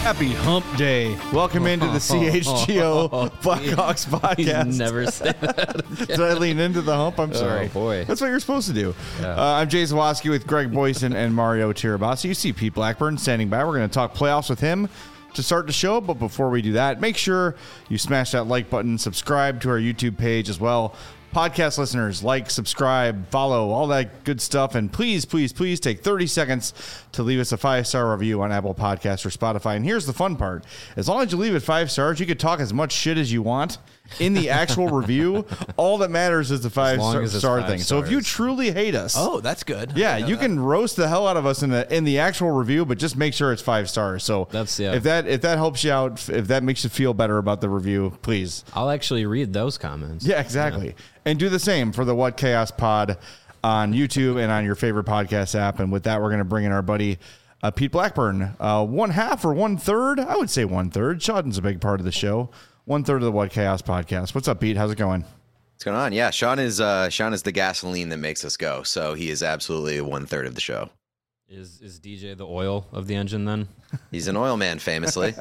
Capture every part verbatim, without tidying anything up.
Happy Hump Day. Welcome into the C H G O Blackhawks podcast. He's never say that. Did I lean into the hump? I'm sorry. Oh, boy. That's what you're supposed to do. Yeah. Uh, I'm Jay Zawoski with Greg Boyson and Mario Tirabassi. You see Pete Blackburn standing by. We're going to talk playoffs with him to start the show. But before we do that, make sure you smash that like button, subscribe to our YouTube page as well. Podcast listeners, like, subscribe, follow, all that good stuff. And please, please, please take thirty seconds to leave us a five-star review on Apple Podcasts or Spotify. And here's the fun part. As long as you leave it five stars, you could talk as much shit as you want in the actual review. All that matters is the five-star star thing. Stars. So if you truly hate us. Oh, that's good. Yeah, you that. can roast the hell out of us in the in the actual review, but just make sure it's five stars. So that's yeah. if that if that helps you out, if that makes you feel better about the review, please. I'll actually read those comments. Yeah, exactly. Yeah. And do the same for the What Chaos Pod on YouTube and on your favorite podcast app. And with that, we're going to bring in our buddy uh, Pete Blackburn. Uh, one half or one third? I would say one third. Sean's a big part of the show. One third of the What Chaos podcast. What's up, Pete? How's it going? What's going on? Yeah, Sean is uh, Sean is the gasoline that makes us go. So he is absolutely one third of the show. Is is D J the oil of the engine then? He's an oil man, famously.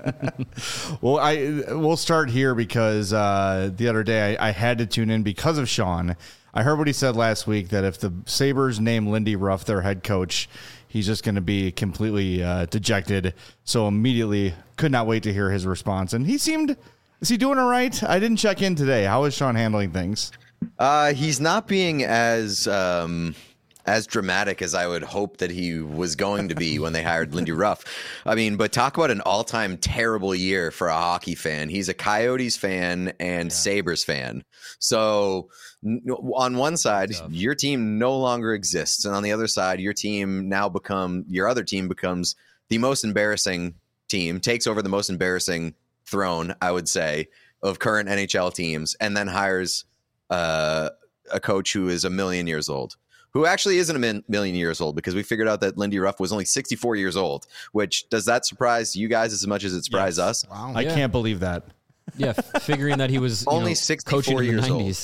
Well, I we'll start here because uh, the other day I, I had to tune in because of Sean. I heard what he said last week that if the Sabres name Lindy Ruff their head coach, he's just going to be completely uh, dejected. So immediately could not wait to hear his response. And he seemed, is he doing all right? I didn't check in today. How is Sean handling things? Uh, he's not being as... Um... as dramatic as I would hope that he was going to be when they hired Lindy Ruff. I mean, but talk about an all-time terrible year for a hockey fan. He's a Coyotes fan and yeah. Sabres fan. So n- on one side, your team no longer exists. And on the other side, your team now become, your other team becomes the most embarrassing team, takes over the most embarrassing throne, I would say, of current N H L teams, and then hires uh, a coach who is a million years old. Who actually isn't a min- million years old, because we figured out that Lindy Ruff was only sixty-four years old, which does that surprise you guys as much as it surprised yes. us? Wow. I yeah. can't believe that. Yeah, figuring that he was only know, sixty-four years old.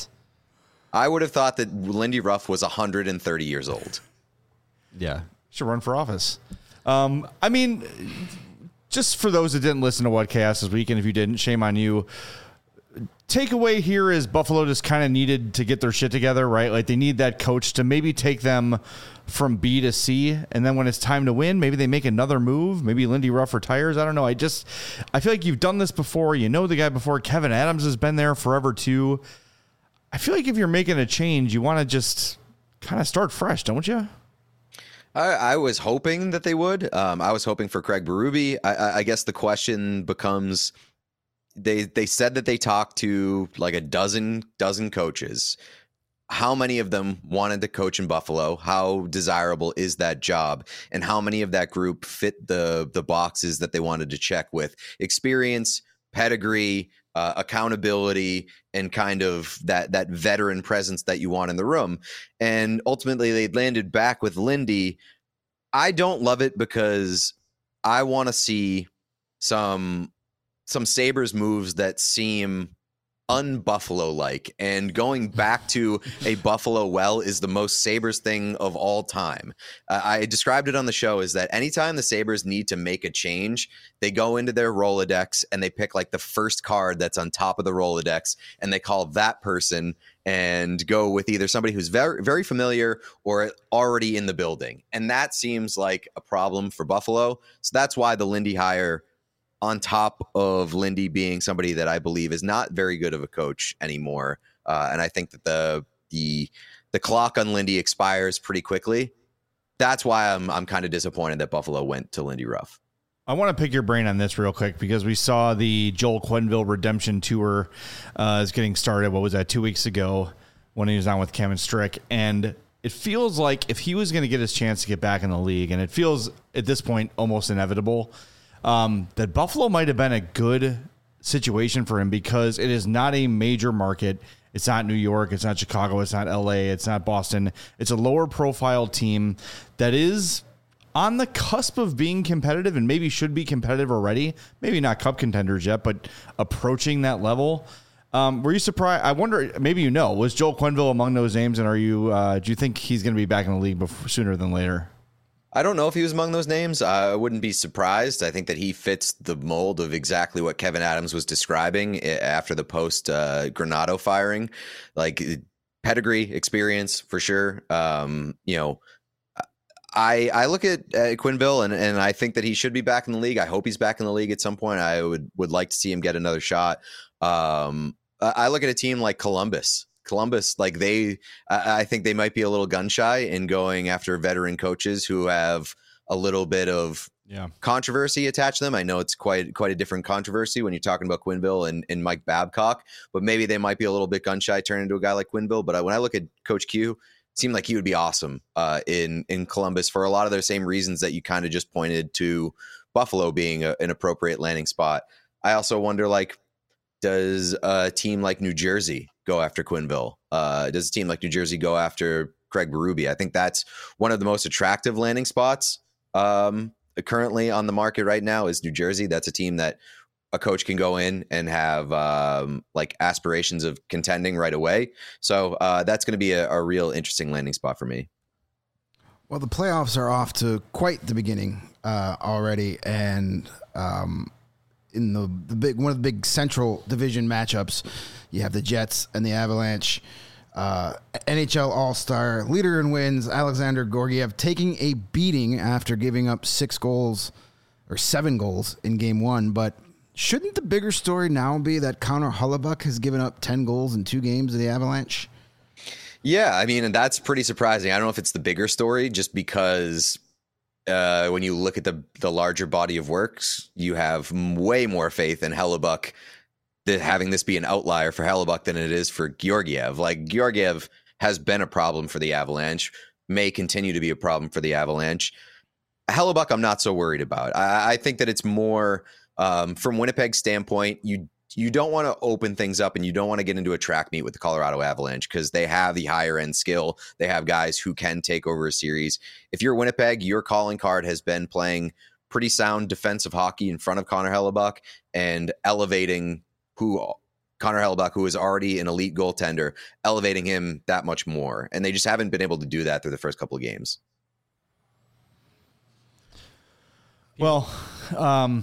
I would have thought that Lindy Ruff was one hundred thirty years old. Yeah. Should run for office. Um, I mean, just for those that didn't listen to What Chaos this weekend, if you didn't, shame on you. Takeaway here is Buffalo just kind of needed to get their shit together, right? Like they need that coach to maybe take them from B to C. And then when it's time to win, maybe they make another move. Maybe Lindy Ruff retires. I don't know. I just, I feel like you've done this before. You know the guy before. Kevin Adams has been there forever too. I feel like if you're making a change, you want to just kind of start fresh, don't you? I, I was hoping that they would. Um, I was hoping for Craig Berube. I, I, I guess the question becomes... They they said that they talked to like a dozen dozen coaches. How many of them wanted to coach in Buffalo? How desirable is that job? And how many of that group fit the the boxes that they wanted to check with experience, pedigree, uh, accountability, and kind of that that veteran presence that you want in the room? And ultimately, they landed back with Lindy. I don't love it because I want to see some. some Sabres moves that seem un-Buffalo-like, and going back to a Buffalo well is the most Sabres thing of all time. Uh, I described it on the show is that anytime the Sabres need to make a change, they go into their Rolodex and they pick like the first card that's on top of the Rolodex, and they call that person and go with either somebody who's very, very familiar or already in the building. And that seems like a problem for Buffalo. So that's why the Lindy hire, on top of Lindy being somebody that I believe is not very good of a coach anymore. Uh, and I think that the the the clock on Lindy expires pretty quickly. That's why I'm I'm kind of disappointed that Buffalo went to Lindy Ruff. I want to pick your brain on this real quick because we saw the Joel Quenneville redemption tour uh, is getting started. What was that, two weeks ago when he was on with Kevin Strick? And it feels like if he was going to get his chance to get back in the league, and it feels at this point almost inevitable, Um, that Buffalo might have been a good situation for him because it is not a major market. It's not New York. It's not Chicago. It's not L A. It's not Boston. It's a lower profile team that is on the cusp of being competitive and maybe should be competitive already. Maybe not cup contenders yet, but approaching that level. Um, were you surprised? I wonder, maybe you know, was Joel Quenneville among those names? And are you, uh, do you think he's going to be back in the league before, sooner than later? I don't know if he was among those names. I wouldn't be surprised. I think that he fits the mold of exactly what Kevin Adams was describing after the post uh, Granato firing, like pedigree, experience for sure. Um, you know, I I look at, at Quenneville and, and I think that he should be back in the league. I hope he's back in the league at some point. I would would like to see him get another shot. Um, I look at a team like Columbus. Columbus, like they, I think they might be a little gun shy in going after veteran coaches who have a little bit of yeah. controversy attached to them. I know it's quite quite a different controversy when you're talking about Quenneville and, and Mike Babcock, but maybe they might be a little bit gun shy turning into a guy like Quenneville. But when I look at Coach Q, it seemed like he would be awesome uh, in in Columbus for a lot of those same reasons that you kind of just pointed to Buffalo being a, an appropriate landing spot. I also wonder, like, does a team like New Jersey go after Quenneville? Uh, does a team like New Jersey go after Craig Berube? I think that's one of the most attractive landing spots um, currently on the market right now is New Jersey. That's a team that a coach can go in and have um, like aspirations of contending right away. So uh, that's going to be a, a real interesting landing spot for me. Well, the playoffs are off to quite the beginning uh, already, and um, in the, the big one of the big Central Division matchups, you have the Jets and the Avalanche. Uh, N H L All-Star leader in wins, Alexander Georgiev, taking a beating after giving up six goals or seven goals in game one. But shouldn't the bigger story now be that Connor Hellebuyck has given up ten goals in two games of the Avalanche? Yeah, I mean, and that's pretty surprising. I don't know if it's the bigger story just because uh, when you look at the the larger body of works, you have way more faith in Hellebuyck that having this be an outlier for Hellebuyck than it is for Georgiev. Like, Georgiev has been a problem for the Avalanche, may continue to be a problem for the Avalanche. Hellebuyck, I'm not so worried about. I, I think that it's more um, from Winnipeg's standpoint, you you don't want to open things up and you don't want to get into a track meet with the Colorado Avalanche because they have the higher end skill. They have guys who can take over a series. If you're Winnipeg, your calling card has been playing pretty sound defensive hockey in front of Connor Hellebuyck and elevating who Connor Hellebuyck, who is already an elite goaltender, elevating him that much more. And they just haven't been able to do that through the first couple of games. Well, um,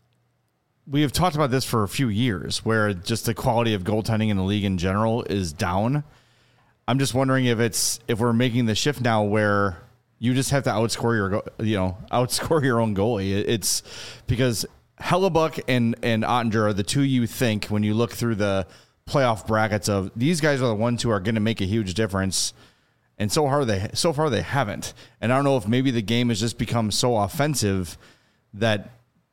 we have talked about this for a few years where just the quality of goaltending in the league in general is down. I'm just wondering if it's if we're making the shift now where you just have to outscore your you know outscore your own goalie. It's because Hellebuyck and and Ottinger are the two you think when you look through the playoff brackets of these guys are the ones who are going to make a huge difference. And so far they so far they haven't. And I don't know if maybe the game has just become so offensive that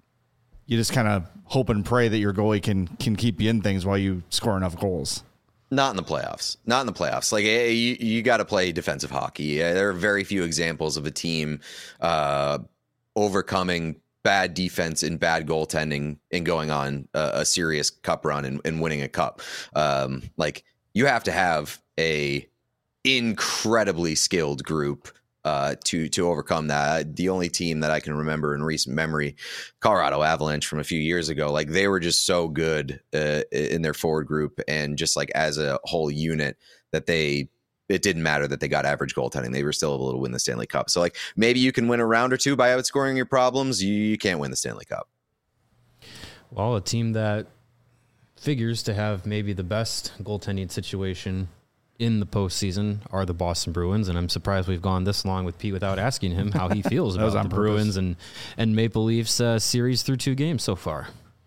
you just kind of hope and pray that your goalie can can keep you in things while you score enough goals. Not in the playoffs. Not in the playoffs. Like, you, you got to play defensive hockey. There are very few examples of a team uh, overcoming bad defense and bad goaltending and going on a, a serious cup run and, and winning a cup. Um, like, you have to have a incredibly skilled group uh, to to overcome that. The only team that I can remember in recent memory, Colorado Avalanche from a few years ago, like they were just so good uh, in their forward group and just like as a whole unit that they it didn't matter that they got average goaltending. They were still able to win the Stanley Cup. So like maybe you can win a round or two by outscoring your problems. You, you can't win the Stanley Cup. Well, a team that figures to have maybe the best goaltending situation in the postseason are the Boston Bruins, and I'm surprised we've gone this long with Pete without asking him how he feels about the Bruins and and Maple Leafs uh, series through two games so far.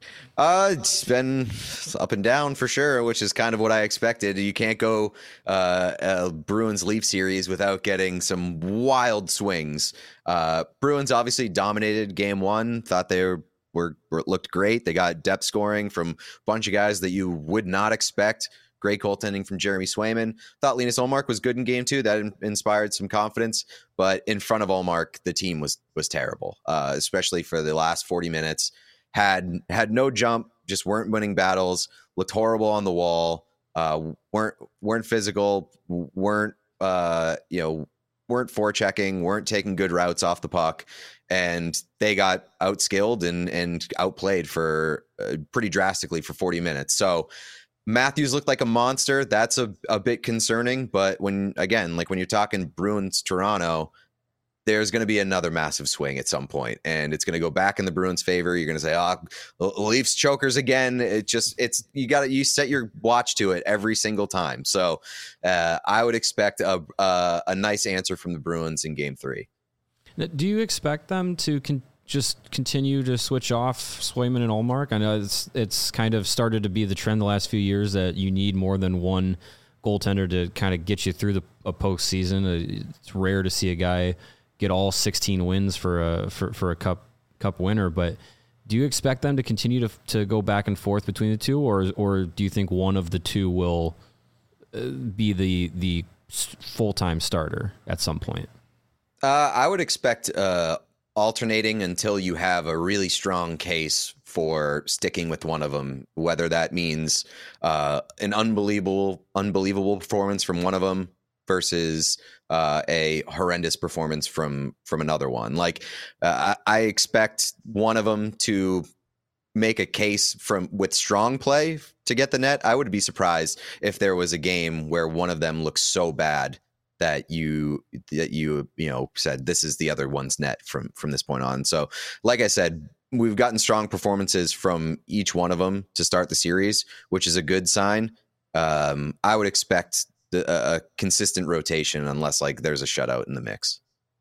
Uh, it's been up and down for sure, which is kind of what I expected. You can't go uh, a Bruins Leaf series without getting some wild swings. Uh, Bruins obviously dominated game one. Thought they were, were, were looked great. They got depth scoring from a bunch of guys that you would not expect. Great goaltending from Jeremy Swayman. Thought Linus Ullmark was good in game two. That in- inspired some confidence. But in front of Ullmark, the team was was terrible, uh, especially for the last forty minutes. Had had no jump, just weren't winning battles. Looked horrible on the wall. Uh, weren't weren't physical. Weren't uh, you know weren't forechecking. Weren't taking good routes off the puck, and they got outskilled and and outplayed for uh, pretty drastically for forty minutes. So Matthews looked like a monster. That's a, a bit concerning. But when, again, like when you're talking Bruins, Toronto, there's going to be another massive swing at some point, and it's going to go back in the Bruins' favor. You're going to say, "Oh, Leafs chokers again." It just, it's you got to you set your watch to it every single time. So uh, I would expect a, a a nice answer from the Bruins in Game Three. Now, do you expect them to con- just continue to switch off Swayman and Ullmark? I know it's it's kind of started to be the trend the last few years that you need more than one goaltender to kind of get you through the a postseason. It's rare to see a guy get all sixteen wins for a for, for a cup cup winner, but do you expect them to continue to to go back and forth between the two, or or do you think one of the two will be the the full time starter at some point? Uh, I would expect uh, alternating until you have a really strong case for sticking with one of them, whether that means uh, an unbelievable unbelievable performance from one of them versus uh, a horrendous performance from from another one. Like uh, I, I expect one of them to make a case from with strong play to get the net. I would be surprised if there was a game where one of them looks so bad that you that you you know said this is the other one's net from from this point on. So like I said, we've gotten strong performances from each one of them to start the series, which is a good sign. Um, I would expect The, a consistent rotation unless like there's a shutout in the mix.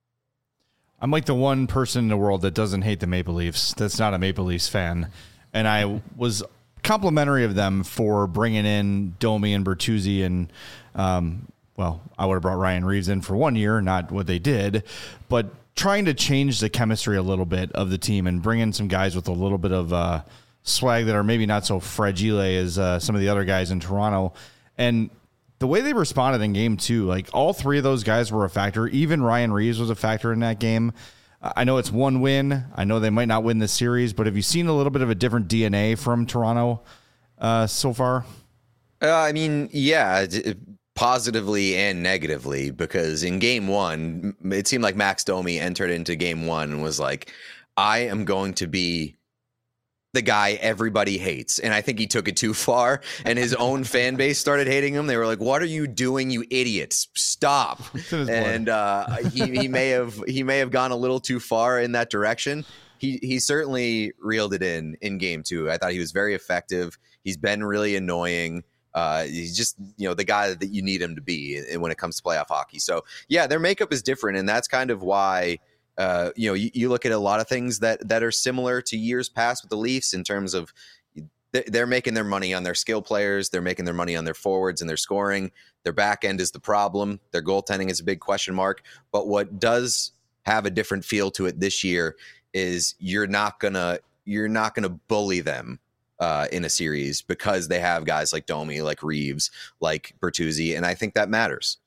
I'm like the one person in the world that doesn't hate the Maple Leafs. That's not a Maple Leafs fan. And I was complimentary of them for bringing in Domi and Bertuzzi. And, um, well, I would have brought Ryan Reeves in for one year, not what they did, but trying to change the chemistry a little bit of the team and bring in some guys with a little bit of uh, swag that are maybe not so fragile as uh, some of the other guys in Toronto. And the way they responded in game two, like all three of those guys were a factor. Even Ryan Reeves was a factor in that game. I know it's one win. I know they might not win this series, but have you seen a little bit of a different D N A from Toronto uh, so far? Uh, I mean, yeah, positively and negatively, because in game one, it seemed like Max Domi entered into game one and was like, I am going to be the guy everybody hates. And I think he took it too far, and his own fan base started hating him. They were like, what are you doing, you idiots? Stop. And uh, he, he may have he may have gone a little too far in that direction. He he certainly reeled it in in game two. I thought he was very effective. He's been really annoying. Uh, he's just, you know, the guy that you need him to be when it comes to playoff hockey. So yeah, their makeup is different. And that's kind of why Uh, you know, you, you look at a lot of things that that are similar to years past with the Leafs in terms of they're making their money on their skill players. They're making their money on their forwards and their scoring. Their back end is the problem. Their goaltending is a big question mark. But what does have a different feel to it this year is you're not gonna you're not gonna bully them uh, in a series because they have guys like Domi, like Reeves, like Bertuzzi, and I think that matters.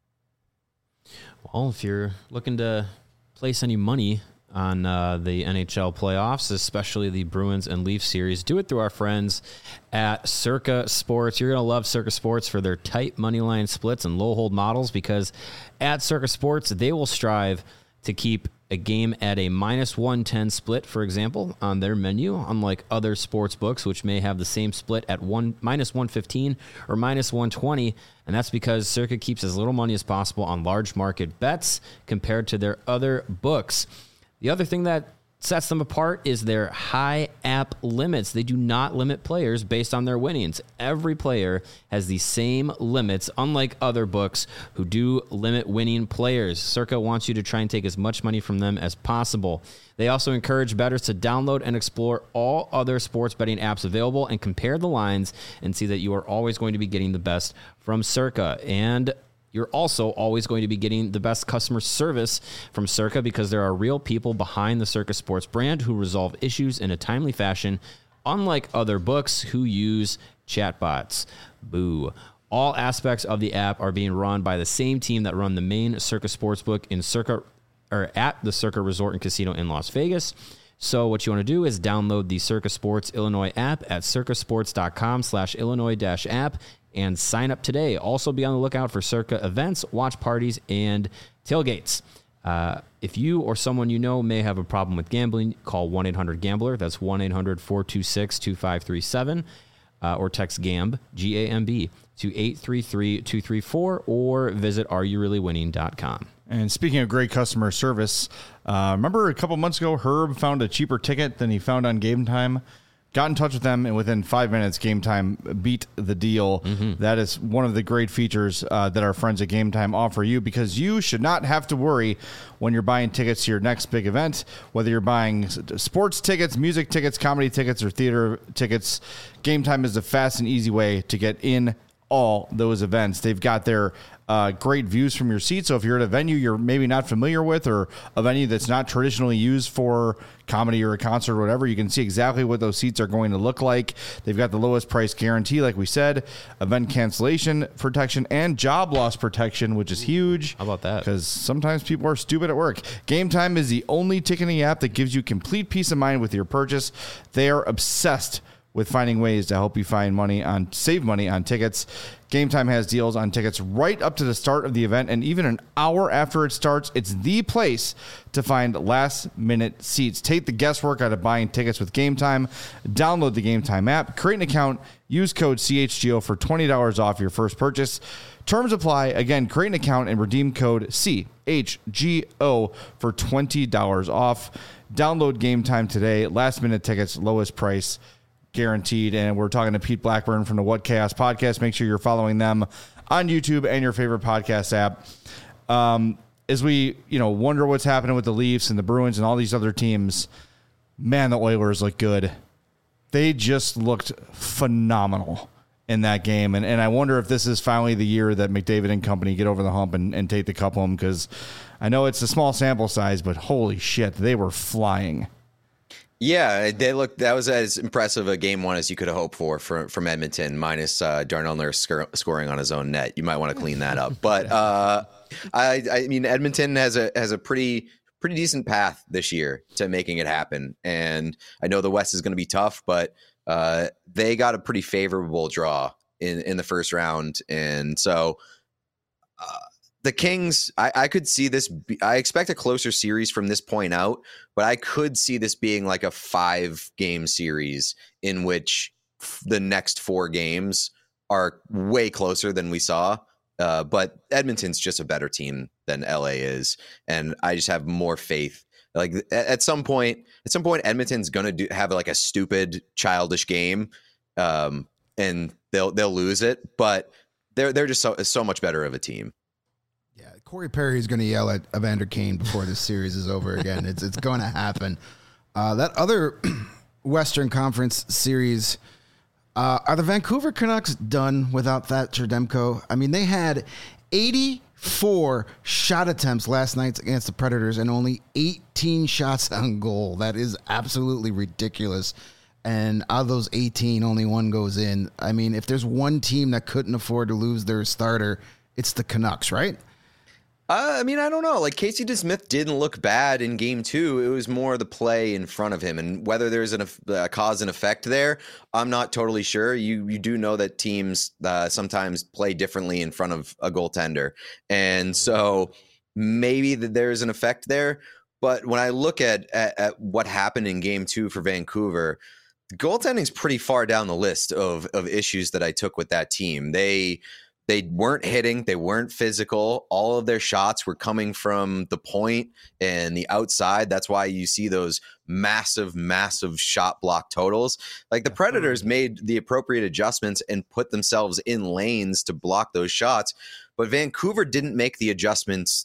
Well, if you're looking to place any money on uh, the N H L playoffs, especially the Bruins and Leafs series, do it through our friends at Circa Sports. You're going to love Circa Sports for their tight money line splits and low hold models, because at Circa Sports, they will strive to keep a game at a minus one ten split, for example, on their menu, unlike other sports books, which may have the same split at one minus one fifteen or minus one twenty. And that's because Circa keeps as little money as possible on large market bets compared to their other books. The other thing that sets them apart is their high app limits. They do not limit players based on their winnings. Every player has the same limits, unlike other books who do limit winning players. Circa wants you to try and take as much money from them as possible. They also encourage bettors to download and explore all other sports betting apps available and compare the lines and see that you are always going to be getting the best from Circa. And you're also always going to be getting the best customer service from Circa, because there are real people behind the Circa Sports brand who resolve issues in a timely fashion, unlike other books who use chatbots. Boo. All aspects of the app are being run by the same team that run the main Circa Sportsbook in Circa, or at the Circa Resort and Casino in Las Vegas. So what you want to do is download the Circa Sports Illinois app at circasports.com slash Illinois dash app and sign up today. Also be on the lookout for Circa events, watch parties, and tailgates. Uh, if you or someone you know may have a problem with gambling, call one eight hundred gambler. That's one eight hundred four two six two five three seven. Uh, or text GAMB, G A M B, to eight three three two three four, or visit are you really winning dot com. And speaking of great customer service, uh, remember a couple months ago, Herb found a cheaper ticket than he found on Game Time. Got in touch with them, and within five minutes, Game Time beat the deal. Mm-hmm. That is one of the great features uh, that our friends at Game Time offer you, because you should not have to worry when you're buying tickets to your next big event, whether you're buying sports tickets, music tickets, comedy tickets, or theater tickets. Game Time is the fast and easy way to get in all those events. They've got their uh, great views from your seat. So if you're at a venue you're maybe not familiar with, or a venue that's not traditionally used for comedy or a concert or whatever, you can see exactly what those seats are going to look like. They've got the lowest price guarantee, like we said, event cancellation protection, and job loss protection, which is huge. How about that? Because sometimes people are stupid at work. Game Time is the only ticketing app that gives you complete peace of mind with your purchase. They are obsessed with finding ways to help you find money on save money on tickets. Game Time has deals on tickets right up to the start of the event, and even an hour after it starts. It's the place to find last minute seats. Take the guesswork out of buying tickets with Game Time. Download the Game Time app, create an account, use code C H G O for twenty dollars off your first purchase. Terms apply. Again, create an account and redeem code C H G O for twenty dollars off. Download Game Time today. Last minute tickets, lowest price guaranteed. And we're talking to Pete Blackburn from the What Chaos podcast. Make sure you're following them on YouTube and your favorite podcast app. Um, as we, you know, wonder what's happening with the Leafs and the Bruins and all these other teams, man, the Oilers look good. They just looked phenomenal in that game. And, and I wonder if this is finally the year that McDavid and company get over the hump and, and take the cup home, because I know it's a small sample size, but holy shit, they were flying. Yeah, they look. That was as impressive a game one as you could have hoped for from, from Edmonton, minus uh, Darnell Nurse sc- scoring on his own net. You might want to clean that up. But uh, I, I mean, Edmonton has a has a pretty pretty decent path this year to making it happen. And I know the West is going to be tough, but uh, they got a pretty favorable draw in in the first round, and so. Uh, The Kings, I, I could see this. Be, I expect a closer series from this point out, but I could see this being like a five game series in which f- the next four games are way closer than we saw. Uh, but Edmonton's just a better team than L A is. And I just have more faith. Like at, at some point, at some point, Edmonton's going to do have like a stupid, childish game, um, and they'll they'll lose it. But they're they're just so so much better of a team. Yeah, Corey Perry is going to yell at Evander Kane before this series is over again. It's it's going to happen. Uh, that other Western Conference series, uh, are the Vancouver Canucks done without Thatcher Demko? I mean, they had eighty-four shot attempts last night against the Predators and only eighteen shots on goal. That is absolutely ridiculous. And out of those eighteen, only one goes in. I mean, if there's one team that couldn't afford to lose their starter, it's the Canucks, right? Uh, I mean, I don't know. Like Casey DeSmith didn't look bad in game two. It was more the play in front of him, and whether there's an, a cause and effect there, I'm not totally sure. You you do know that teams uh, sometimes play differently in front of a goaltender, and so maybe that there's an effect there. But when I look at, at at what happened in game two for Vancouver, goaltending's pretty far down the list of of issues that I took with that team. They. They weren't hitting. They weren't physical. All of their shots were coming from the point and the outside. That's why you see those massive, massive shot block totals. Like the Predators made the appropriate adjustments and put themselves in lanes to block those shots. But Vancouver didn't make the adjustments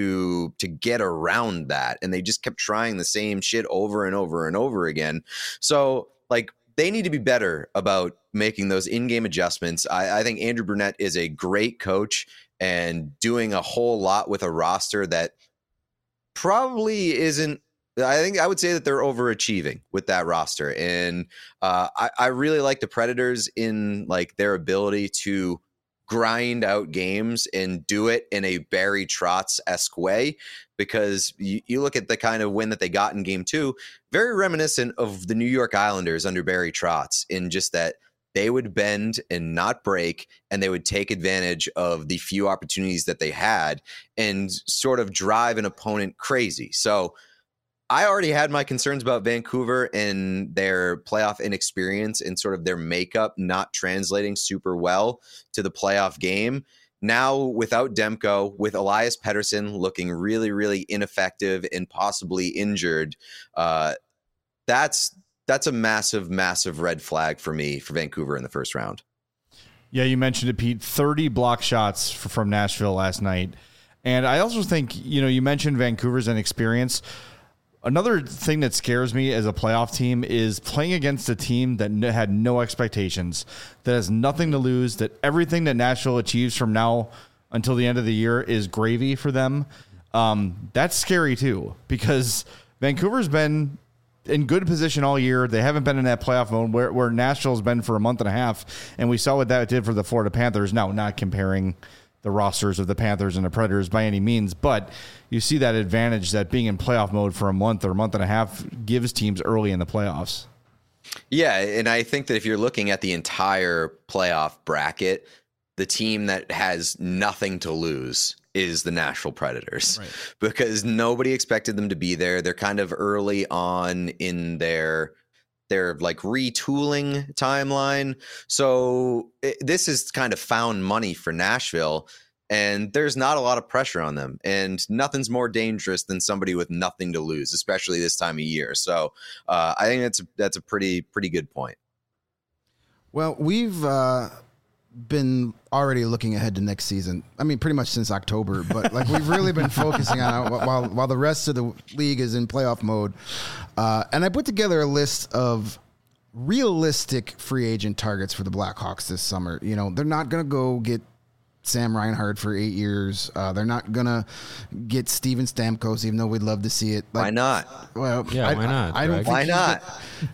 to to get around that. And they just kept trying the same shit over and over and over again. So like, they need to be better about making those in-game adjustments. I, I think Andrew Brunette is a great coach and doing a whole lot with a roster that probably isn't. I think I would say that they're overachieving with that roster. And uh, I, I really like the Predators in like their ability to grind out games and do it in a Barry Trotz-esque way, because you, you look at the kind of win that they got in game two, very reminiscent of the New York Islanders under Barry Trotz, in just that they would bend and not break, and they would take advantage of the few opportunities that they had and sort of drive an opponent crazy. So I already had my concerns about Vancouver and their playoff inexperience and sort of their makeup not translating super well to the playoff game. now without Demko, with Elias Pettersson looking really, really ineffective and possibly injured, uh, that's that's a massive, massive red flag for me for Vancouver in the first round. Yeah, you mentioned it, Pete. thirty block shots f- from Nashville last night. And I also think, you know, you mentioned Vancouver's inexperience. Another thing that scares me as a playoff team is playing against a team that n- had no expectations, that has nothing to lose, that everything that Nashville achieves from now until the end of the year is gravy for them. Um, that's scary too, because Vancouver's been in good position all year. They haven't been in that playoff mode where, where Nashville's been for a month and a half, and we saw what that did for the Florida Panthers. Now, not comparing the rosters of the Panthers and the Predators by any means, but you see that advantage that being in playoff mode for a month or a month and a half gives teams early in the playoffs. Yeah, and I think that if you're looking at the entire playoff bracket, the team that has nothing to lose is the Nashville Predators, right? Because nobody expected them to be there. They're kind of early on in their their like retooling timeline. So it, this is kind of found money for Nashville, and there's not a lot of pressure on them, and nothing's more dangerous than somebody with nothing to lose, especially this time of year. So uh, I think that's that's a pretty pretty good point. Well, we've uh, been already looking ahead to next season. I mean, pretty much since October, but like we've really been focusing on it while while the rest of the league is in playoff mode. Uh, and I put together a list of realistic free agent targets for the Blackhawks this summer. You know, they're not going to go get Sam Reinhart for eight years. Uh, they're not going to get Steven Stamkos, even though we'd love to see it. Like, why not? Well, yeah, I, why not? I, I don't think why not?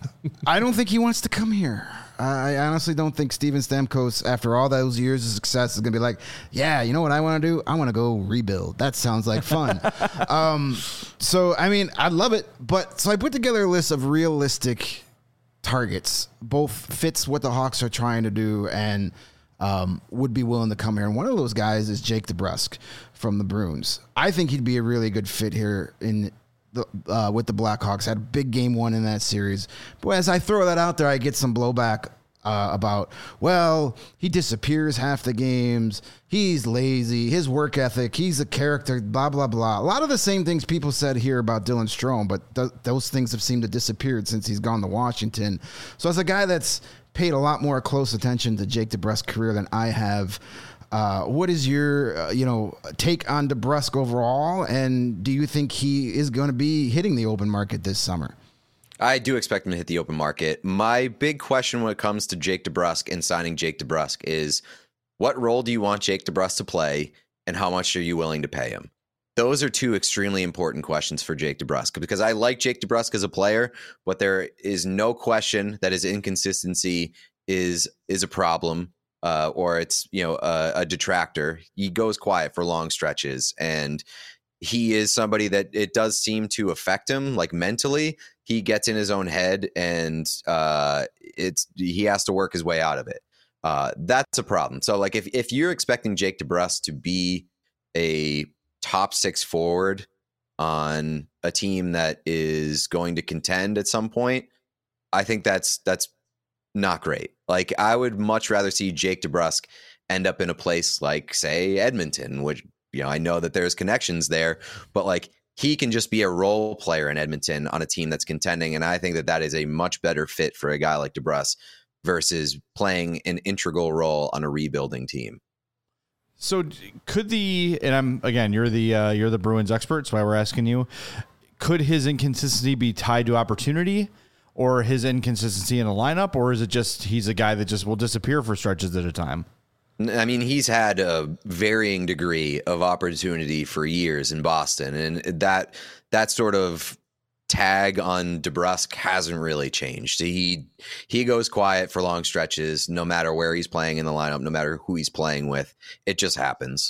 I don't think he wants to come here. I honestly don't think Steven Stamkos, after all those years of success, is going to be like, yeah, you know what I want to do? I want to go rebuild. That sounds like fun. um, so, I mean, I love it. But so I put together a list of realistic targets, both fits what the Hawks are trying to do and um, would be willing to come here. And one of those guys is Jake DeBrusk from the Bruins. I think he'd be a really good fit here in The, uh, with the Blackhawks. Had a big game one in that series. But as I throw that out there, I get some blowback uh, about, well, he disappears half the games. He's lazy. His work ethic. He's a character, blah, blah, blah. A lot of the same things people said here about Dylan Strome, but th- those things have seemed to disappear since he's gone to Washington. So as a guy that's paid a lot more close attention to Jake DeBrusk's career than I have, Uh, what is your, uh, you know, take on DeBrusk overall, and do you think he is going to be hitting the open market this summer? I do expect him to hit the open market. My big question when it comes to Jake DeBrusk and signing Jake DeBrusk is, what role do you want Jake DeBrusk to play, and how much are you willing to pay him? Those are two extremely important questions for Jake DeBrusk, because I like Jake DeBrusk as a player, but there is no question that his inconsistency is is a problem. Uh, or it's, you know, a, a detractor. He goes quiet for long stretches, and he is somebody that it does seem to affect him, like mentally. He gets in his own head, and uh, it's he has to work his way out of it. Uh, that's a problem. So, like, if if you're expecting Jake DeBrusk to be a top six forward on a team that is going to contend at some point, I think that's that's not great. Like, I would much rather see Jake DeBrusk end up in a place like, say, Edmonton, which, you know, I know that there's connections there, but like, he can just be a role player in Edmonton on a team that's contending. And I think that that is a much better fit for a guy like DeBrusk versus playing an integral role on a rebuilding team. So could the, and I'm, again, you're the, uh, you're the Bruins expert, so why we're asking you, could his inconsistency be tied to opportunity, or his inconsistency in a lineup, or is it just he's a guy that just will disappear for stretches at a time? I mean, he's had a varying degree of opportunity for years in Boston, and that that sort of tag on DeBrusk hasn't really changed. He he goes quiet for long stretches, no matter where he's playing in the lineup, no matter who he's playing with. It just happens.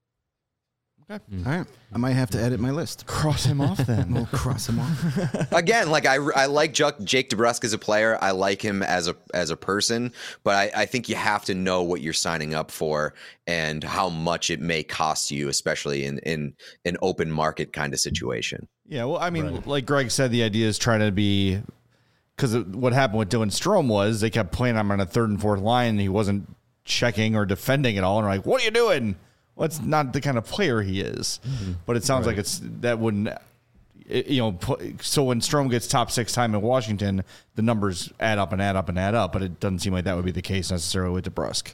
Okay. Mm. All right. I might have to edit my list. Cross him off then. We'll cross him off. Again, like I, I like Jake DeBrusk as a player. I like him as a as a person, but I, I think you have to know what you're signing up for and how much it may cost you, especially in, in an open market kind of situation. Yeah, well, I mean, right. Like Greg said, the idea is trying to be, because what happened with Dylan Strome was they kept playing him on a third and fourth line, and he wasn't checking or defending at all. And like, what are you doing? well, it's not the kind of player he is. Mm-hmm. But it sounds right. like it's that wouldn't, it, you know. So when Strome gets top six time in Washington, the numbers add up and add up and add up. But it doesn't seem like that would be the case necessarily with DeBrusk.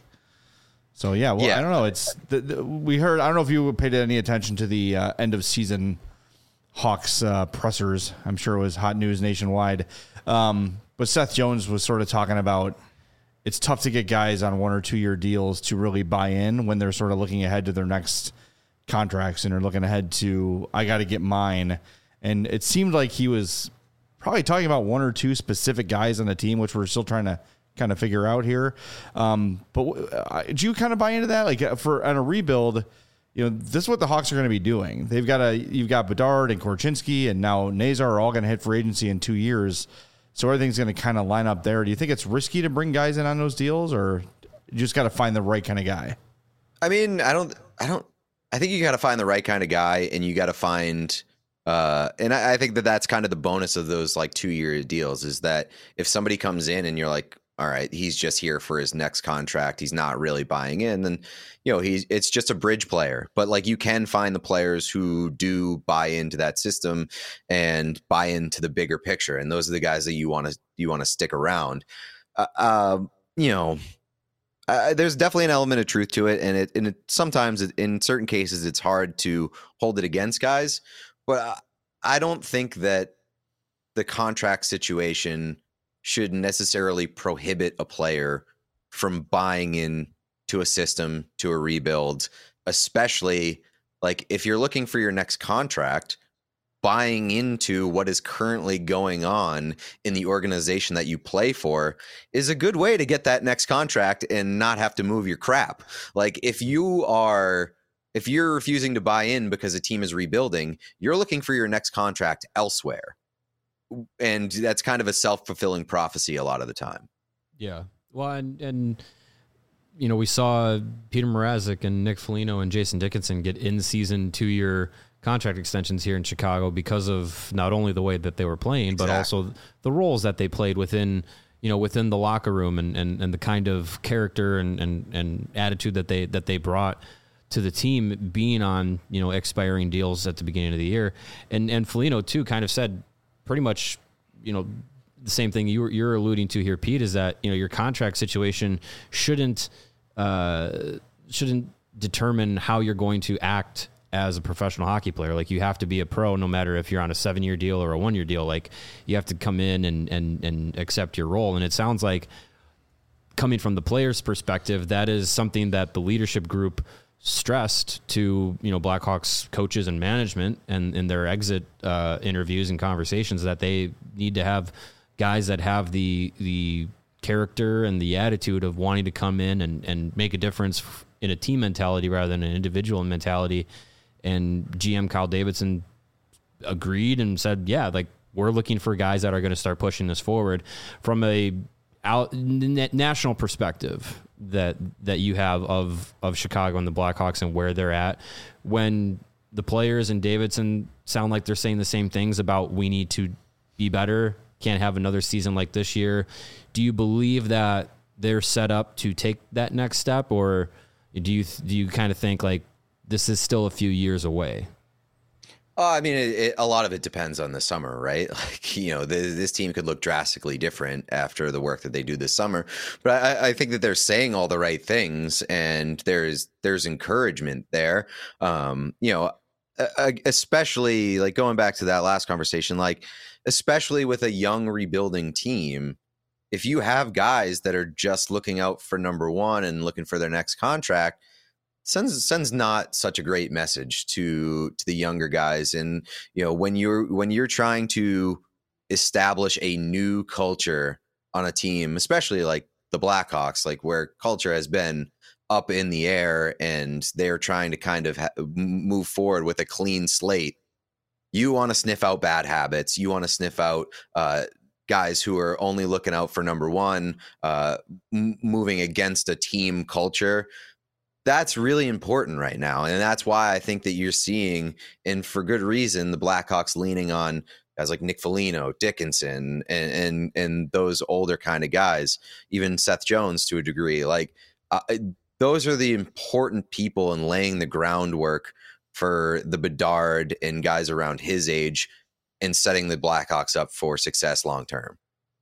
So yeah, well, yeah. I don't know. It's the, the, we heard. I don't know if you paid any attention to the uh, end of season Hawks uh, pressers. I'm sure it was hot news nationwide. Um, but Seth Jones was sort of talking about it's tough to get guys on one or two year deals to really buy in when they're sort of looking ahead to their next contracts and are looking ahead to, I got to get mine. And it seemed like he was probably talking about one or two specific guys on the team, which we're still trying to kind of figure out here. Um, but uh, do you kind of buy into that? Like for on a rebuild, you know, this is what the Hawks are going to be doing. They've got a, you've got Bedard and Korchinski and now Nazar are all going to hit free agency in two years. So everything's going to kind of line up there. Do you think it's risky to bring guys in on those deals, or you just got to find the right kind of guy? I mean, I don't, I don't, I think you got to find the right kind of guy, and you got to find, uh, and I, I think that that's kind of the bonus of those like two year deals is that if somebody comes in and you're like, all right, he's just here for his next contract, he's not really buying in, then, you know, he's, it's just a bridge player. But like you can find the players who do buy into that system and buy into the bigger picture. And those are the guys that you want to, you want to stick around. Uh, uh, you know, uh, there's definitely an element of truth to it. And it, and it sometimes it, in certain cases, it's hard to hold it against guys, but I, I don't think that the contract situation should necessarily prohibit a player from buying in to a system, to a rebuild, especially like if you're looking for your next contract, buying into what is currently going on in the organization that you play for is a good way to get that next contract and not have to move your crap. Like if you are, if you're refusing to buy in because a team is rebuilding, you're looking for your next contract elsewhere. And that's kind of a self-fulfilling prophecy a lot of the time. Yeah. Well, and, and you know, we saw Peter Mrazek and Nick Foligno and Jason Dickinson get in-season two-year contract extensions here in Chicago because of not only the way that they were playing, exactly. but also the roles that they played within, you know, within the locker room and, and, and the kind of character and, and, and attitude that they that they brought to the team being on, you know, expiring deals at the beginning of the year. And and Foligno, too, kind of said pretty much, you know, the same thing you were, you're alluding to here, Pete, is that, you know, your contract situation shouldn't uh, shouldn't determine how you're going to act as a professional hockey player. Like you have to be a pro no matter if you're on a seven year deal or a one year deal. Like you have to come in and, and, and accept your role. And it sounds like coming from the player's perspective, that is something that the leadership group stressed to, you know, Blackhawks coaches and management and in their exit uh, interviews and conversations, that they need to have guys that have the the character and the attitude of wanting to come in and, and make a difference in a team mentality rather than an individual mentality. And G M Kyle Davidson agreed and said, yeah, like we're looking for guys that are going to start pushing this forward from a out, national perspective that that you have of of Chicago and the Blackhawks and where they're at. When the players and Davidson sound like they're saying the same things about we need to be better, can't have another season like this year. Do you believe that they're set up to take that next step, or do you do you kind of think like this is still a few years away? Uh, I mean, it, it, a lot of it depends on the summer, right? Like, you know, the, this team could look drastically different after the work that they do this summer. But I, I think that they're saying all the right things, and there's there's encouragement there. Um, you know, especially like going back to that last conversation, like especially with a young rebuilding team, if you have guys that are just looking out for number one and looking for their next contract, sends sends not such a great message to to the younger guys. And you know, when you're when you're trying to establish a new culture on a team, especially like the Blackhawks, like where culture has been up in the air and they're trying to kind of ha- move forward with a clean slate, you want to sniff out bad habits. You want to sniff out uh, guys who are only looking out for number one, uh, m- moving against a team culture. That's really important right now. And that's why I think that you're seeing, and for good reason, the Blackhawks leaning on guys like Nick Foligno, Dickinson, and, and, and those older kind of guys, even Seth Jones to a degree. Like uh, those are the important people in laying the groundwork for the Bedard and guys around his age and setting the Blackhawks up for success long term.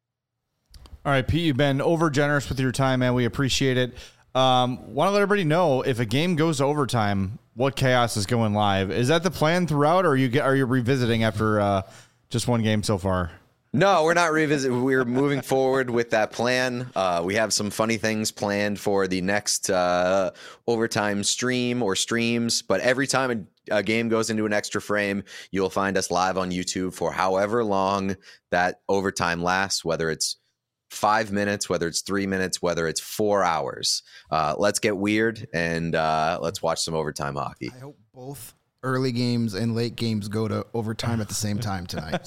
All right, Pete, you've been over generous with your time, man. We appreciate it. Um, want to let everybody know if a game goes to overtime, what Chaos is going live. Is that the plan throughout, or are you get, are you revisiting after uh, just one game so far? No, we're not revisiting. We're moving forward with that plan. Uh, we have some funny things planned for the next uh, overtime stream or streams. But every time a, a game goes into an extra frame, you'll find us live on YouTube for however long that overtime lasts, whether it's five minutes, whether it's three minutes, whether it's four hours. Uh, let's get weird and uh, let's watch some overtime hockey. I hope both early games and late games go to overtime at the same time tonight.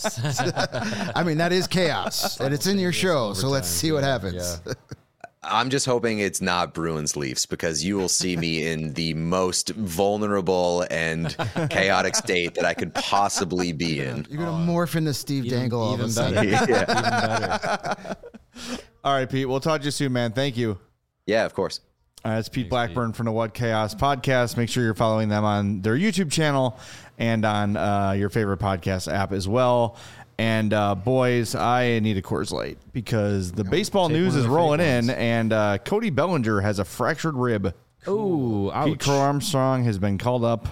I mean, that is chaos, and it's in your show, so let's see what happens. Yeah. I'm just hoping it's not Bruins Leafs, because you will see me in the most vulnerable and chaotic state that I could possibly be in. You're going to morph into Steve Even, Dangle all even of a sudden. better. Yeah. Even better. All right, Pete. We'll talk to you soon, man. Thank you. Yeah, of course. All right, it's Pete Blackburn from the What Chaos podcast. Make sure you're following them on their YouTube channel and on uh, your favorite podcast app as well. And uh, boys, I need a Coors Light because the baseball take news one of is the rolling fake in, ones. and uh, Cody Bellinger has a fractured rib. Oh, Pete ouch. Crow Armstrong has been called up,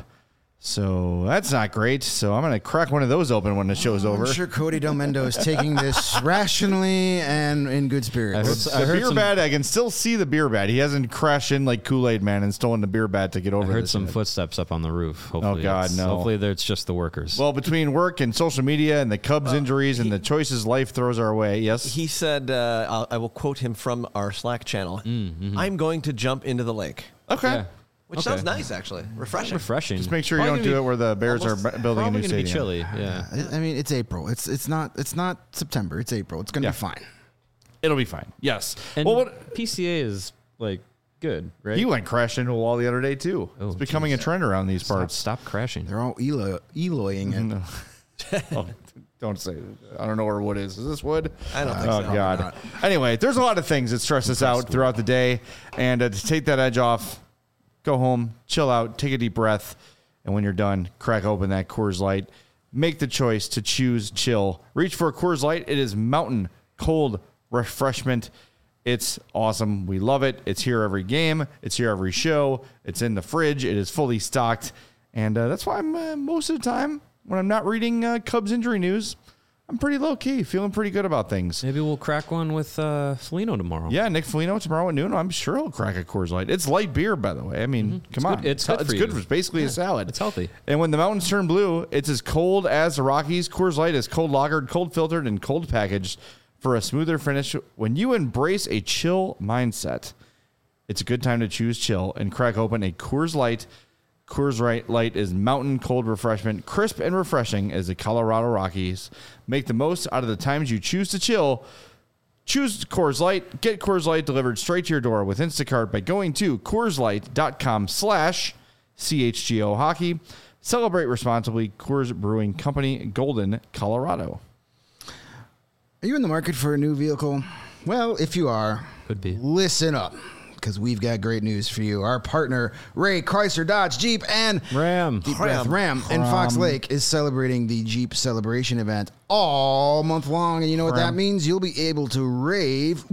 so that's not great. So I'm going to crack one of those open when the show's over. I'm sure Cody Del Mendo is taking this rationally and in good spirits. I heard, I The heard beer some, bat, I can still see the beer bat. He hasn't crashed in like Kool-Aid Man and stolen the beer bat to get I over heard this some yet. footsteps up on the roof. Hopefully God, it's- no. Hopefully there- it's just the workers. Well, between work and social media and the Cubs injuries and the choices life throws our way, yes. He said, uh, I'll, I will quote him from our Slack channel. I'm going to jump into the lake, Okay. yeah. which Okay. sounds nice, actually. Refreshing. Refreshing. Just make sure you Probably don't gonna do be it where the Bears almost- are bu- building a Probably new gonna be stadium. chilly. Yeah. I I mean, it's April. It's it's not it's not September. It's April. It's going to Yeah. be fine. It'll be fine. Yes. And well, what, P C A is like good, right? he went crashing into a wall the other day too. Oh, it's becoming a trend around these stop, parts. stop crashing. They're all Elo, Eloying it. No. Oh, don't say it. I don't know where wood is. Is this wood? I don't think Oh, so. God. Anyway, there's a lot of things that stress us out throughout the day. And uh, to take that edge off, go home, chill out, take a deep breath. And when you're done, crack open that Coors Light. Make the choice to choose chill. Reach for a Coors Light. It is mountain cold refreshment. It's awesome. We love it. It's here every game. It's here every show. It's in the fridge. It is fully stocked. And uh, that's why I'm uh, most of the time when I'm not reading uh, Cubs injury news, I'm pretty low key, feeling pretty good about things. Maybe we'll crack one with uh, Foligno tomorrow. Yeah, Nick Foligno tomorrow at noon. I'm sure he'll crack a Coors Light. It's light beer, by the way. I mean, come on. good- it's good it's for good you. for it's basically a salad. It's healthy. And when the mountains turn blue, it's as cold as the Rockies. Coors Light is cold lagered, cold filtered, and cold packaged for a smoother finish. When you embrace a chill mindset, it's a good time to choose chill and crack open a Coors Light. Coors Light is mountain cold refreshment, crisp and refreshing as the Colorado Rockies. Make the most out of the times you choose to chill. Choose Coors Light. Get Coors Light delivered straight to your door with Instacart by going to CoorsLight.com slash CHGO Hockey. Celebrate responsibly. Coors Brewing Company, Golden, Colorado. Are you in the market for a new vehicle? Well, if you are, Could be. listen up, because we've got great news for you. Our partner, Ray Chrysler Dodge Jeep and Ram. Deep Breath Ram in Fox Lake is celebrating the Jeep Celebration event all month long. And you know what that Ram. means? You'll be able to rave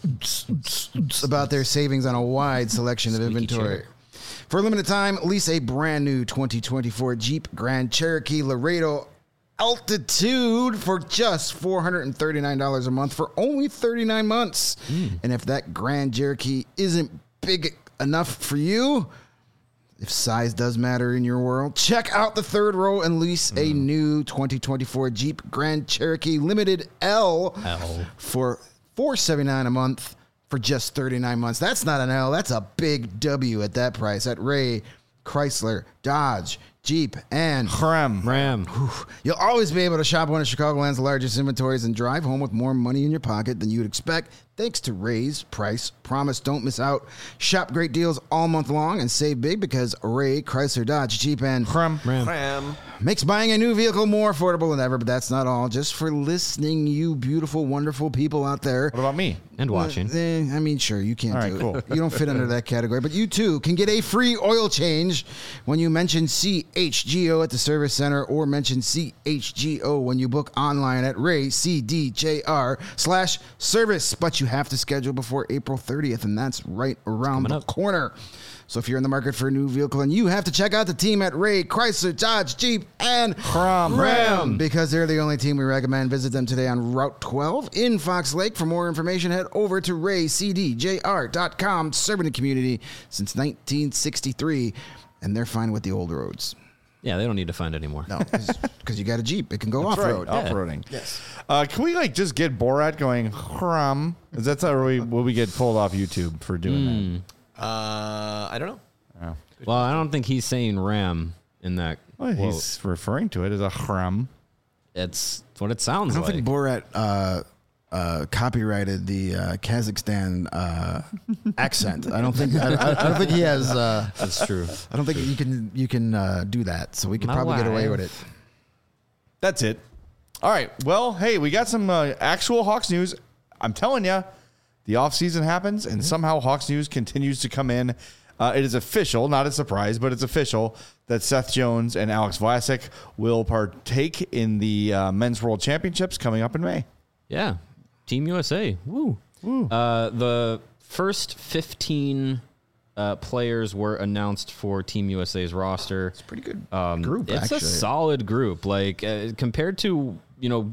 about their savings on a wide selection of inventory. For a limited time, lease a brand new twenty twenty-four Jeep Grand Cherokee Laredo Altitude for just four hundred thirty-nine dollars a month for only thirty-nine months. And if that Grand Cherokee isn't big enough for you, if size does matter in your world, check out the third row and lease a new twenty twenty-four Jeep Grand Cherokee Limited L, L. for four hundred seventy-nine dollars a month for just thirty-nine months. That's not an L. That's a big W at that price at Ray Chrysler Dodge Jeep and Ram. Ram. You'll always be able to shop one of Chicagoland's largest inventories and drive home with more money in your pocket than you'd expect Thanks to Ray's Price Promise. Don't miss out. Shop great deals all month long and save big because Ray, Chrysler, Dodge, Jeep, and Crum. Cram. makes buying a new vehicle more affordable than ever. But that's not all. Just for listening, you beautiful, wonderful people out there. What about me? And watching. Eh, I mean, sure, you can't All do right, it. cool. You don't fit under that category. But you, too, can get a free oil change when you mention C H G O at the service center or mention C H G O when you book online at Ray C D J R slash service. But you have to schedule before April thirtieth, and that's right around the up. corner. So if you're in the market for a new vehicle, and you have to check out the team at Ray, Chrysler, Dodge, Jeep, and Ram. Ram, because they're the only team we recommend. Visit them today on Route twelve in Fox Lake. For more information, head over to ray c d j r dot com. Serving the community since nineteen sixty-three, and they're fine with the old roads. Yeah, they don't need to find anymore. No, because you got a Jeep. It can go That's off-road. right, off-roading. Yes. Uh, can we like just get Borat going? Crum. Is that how we will we get pulled off YouTube for doing Uh, I don't know. that? Oh. Well, I don't think he's saying ram in that. Well, quote. he's referring to it as a crum. It's what it sounds I don't like. think Borat uh, uh, copyrighted the uh, Kazakhstan uh, accent. I don't think. I, I, I don't think he has. Uh, That's true. I don't think you can. You can uh, do that. So we could My probably get away wife. with it. That's it. All right. Well, hey, we got some uh, actual Hawks news. I'm telling you, the offseason happens, and somehow Hawks news continues to come in. Uh, it is official, not a surprise, but it's official that Seth Jones and Alex Vlasic will partake in the uh, Men's World Championships coming up in May. Yeah. Team U S A. Woo. Woo. Uh, the first fifteen uh, players were announced for Team U S A's roster. It's a pretty good Um, group. It's actually. a solid group. Like uh, compared to, you know,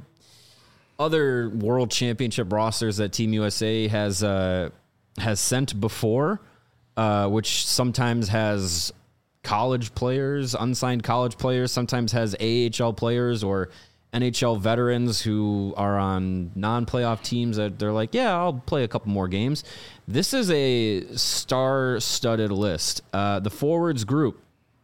other World Championship rosters that Team U S A has uh, has sent before, uh, which sometimes has college players, unsigned college players, sometimes has A H L players or N H L veterans who are on non-playoff teams that they're like, yeah, I'll play a couple more games. This is a star-studded list. Uh, the forwards group,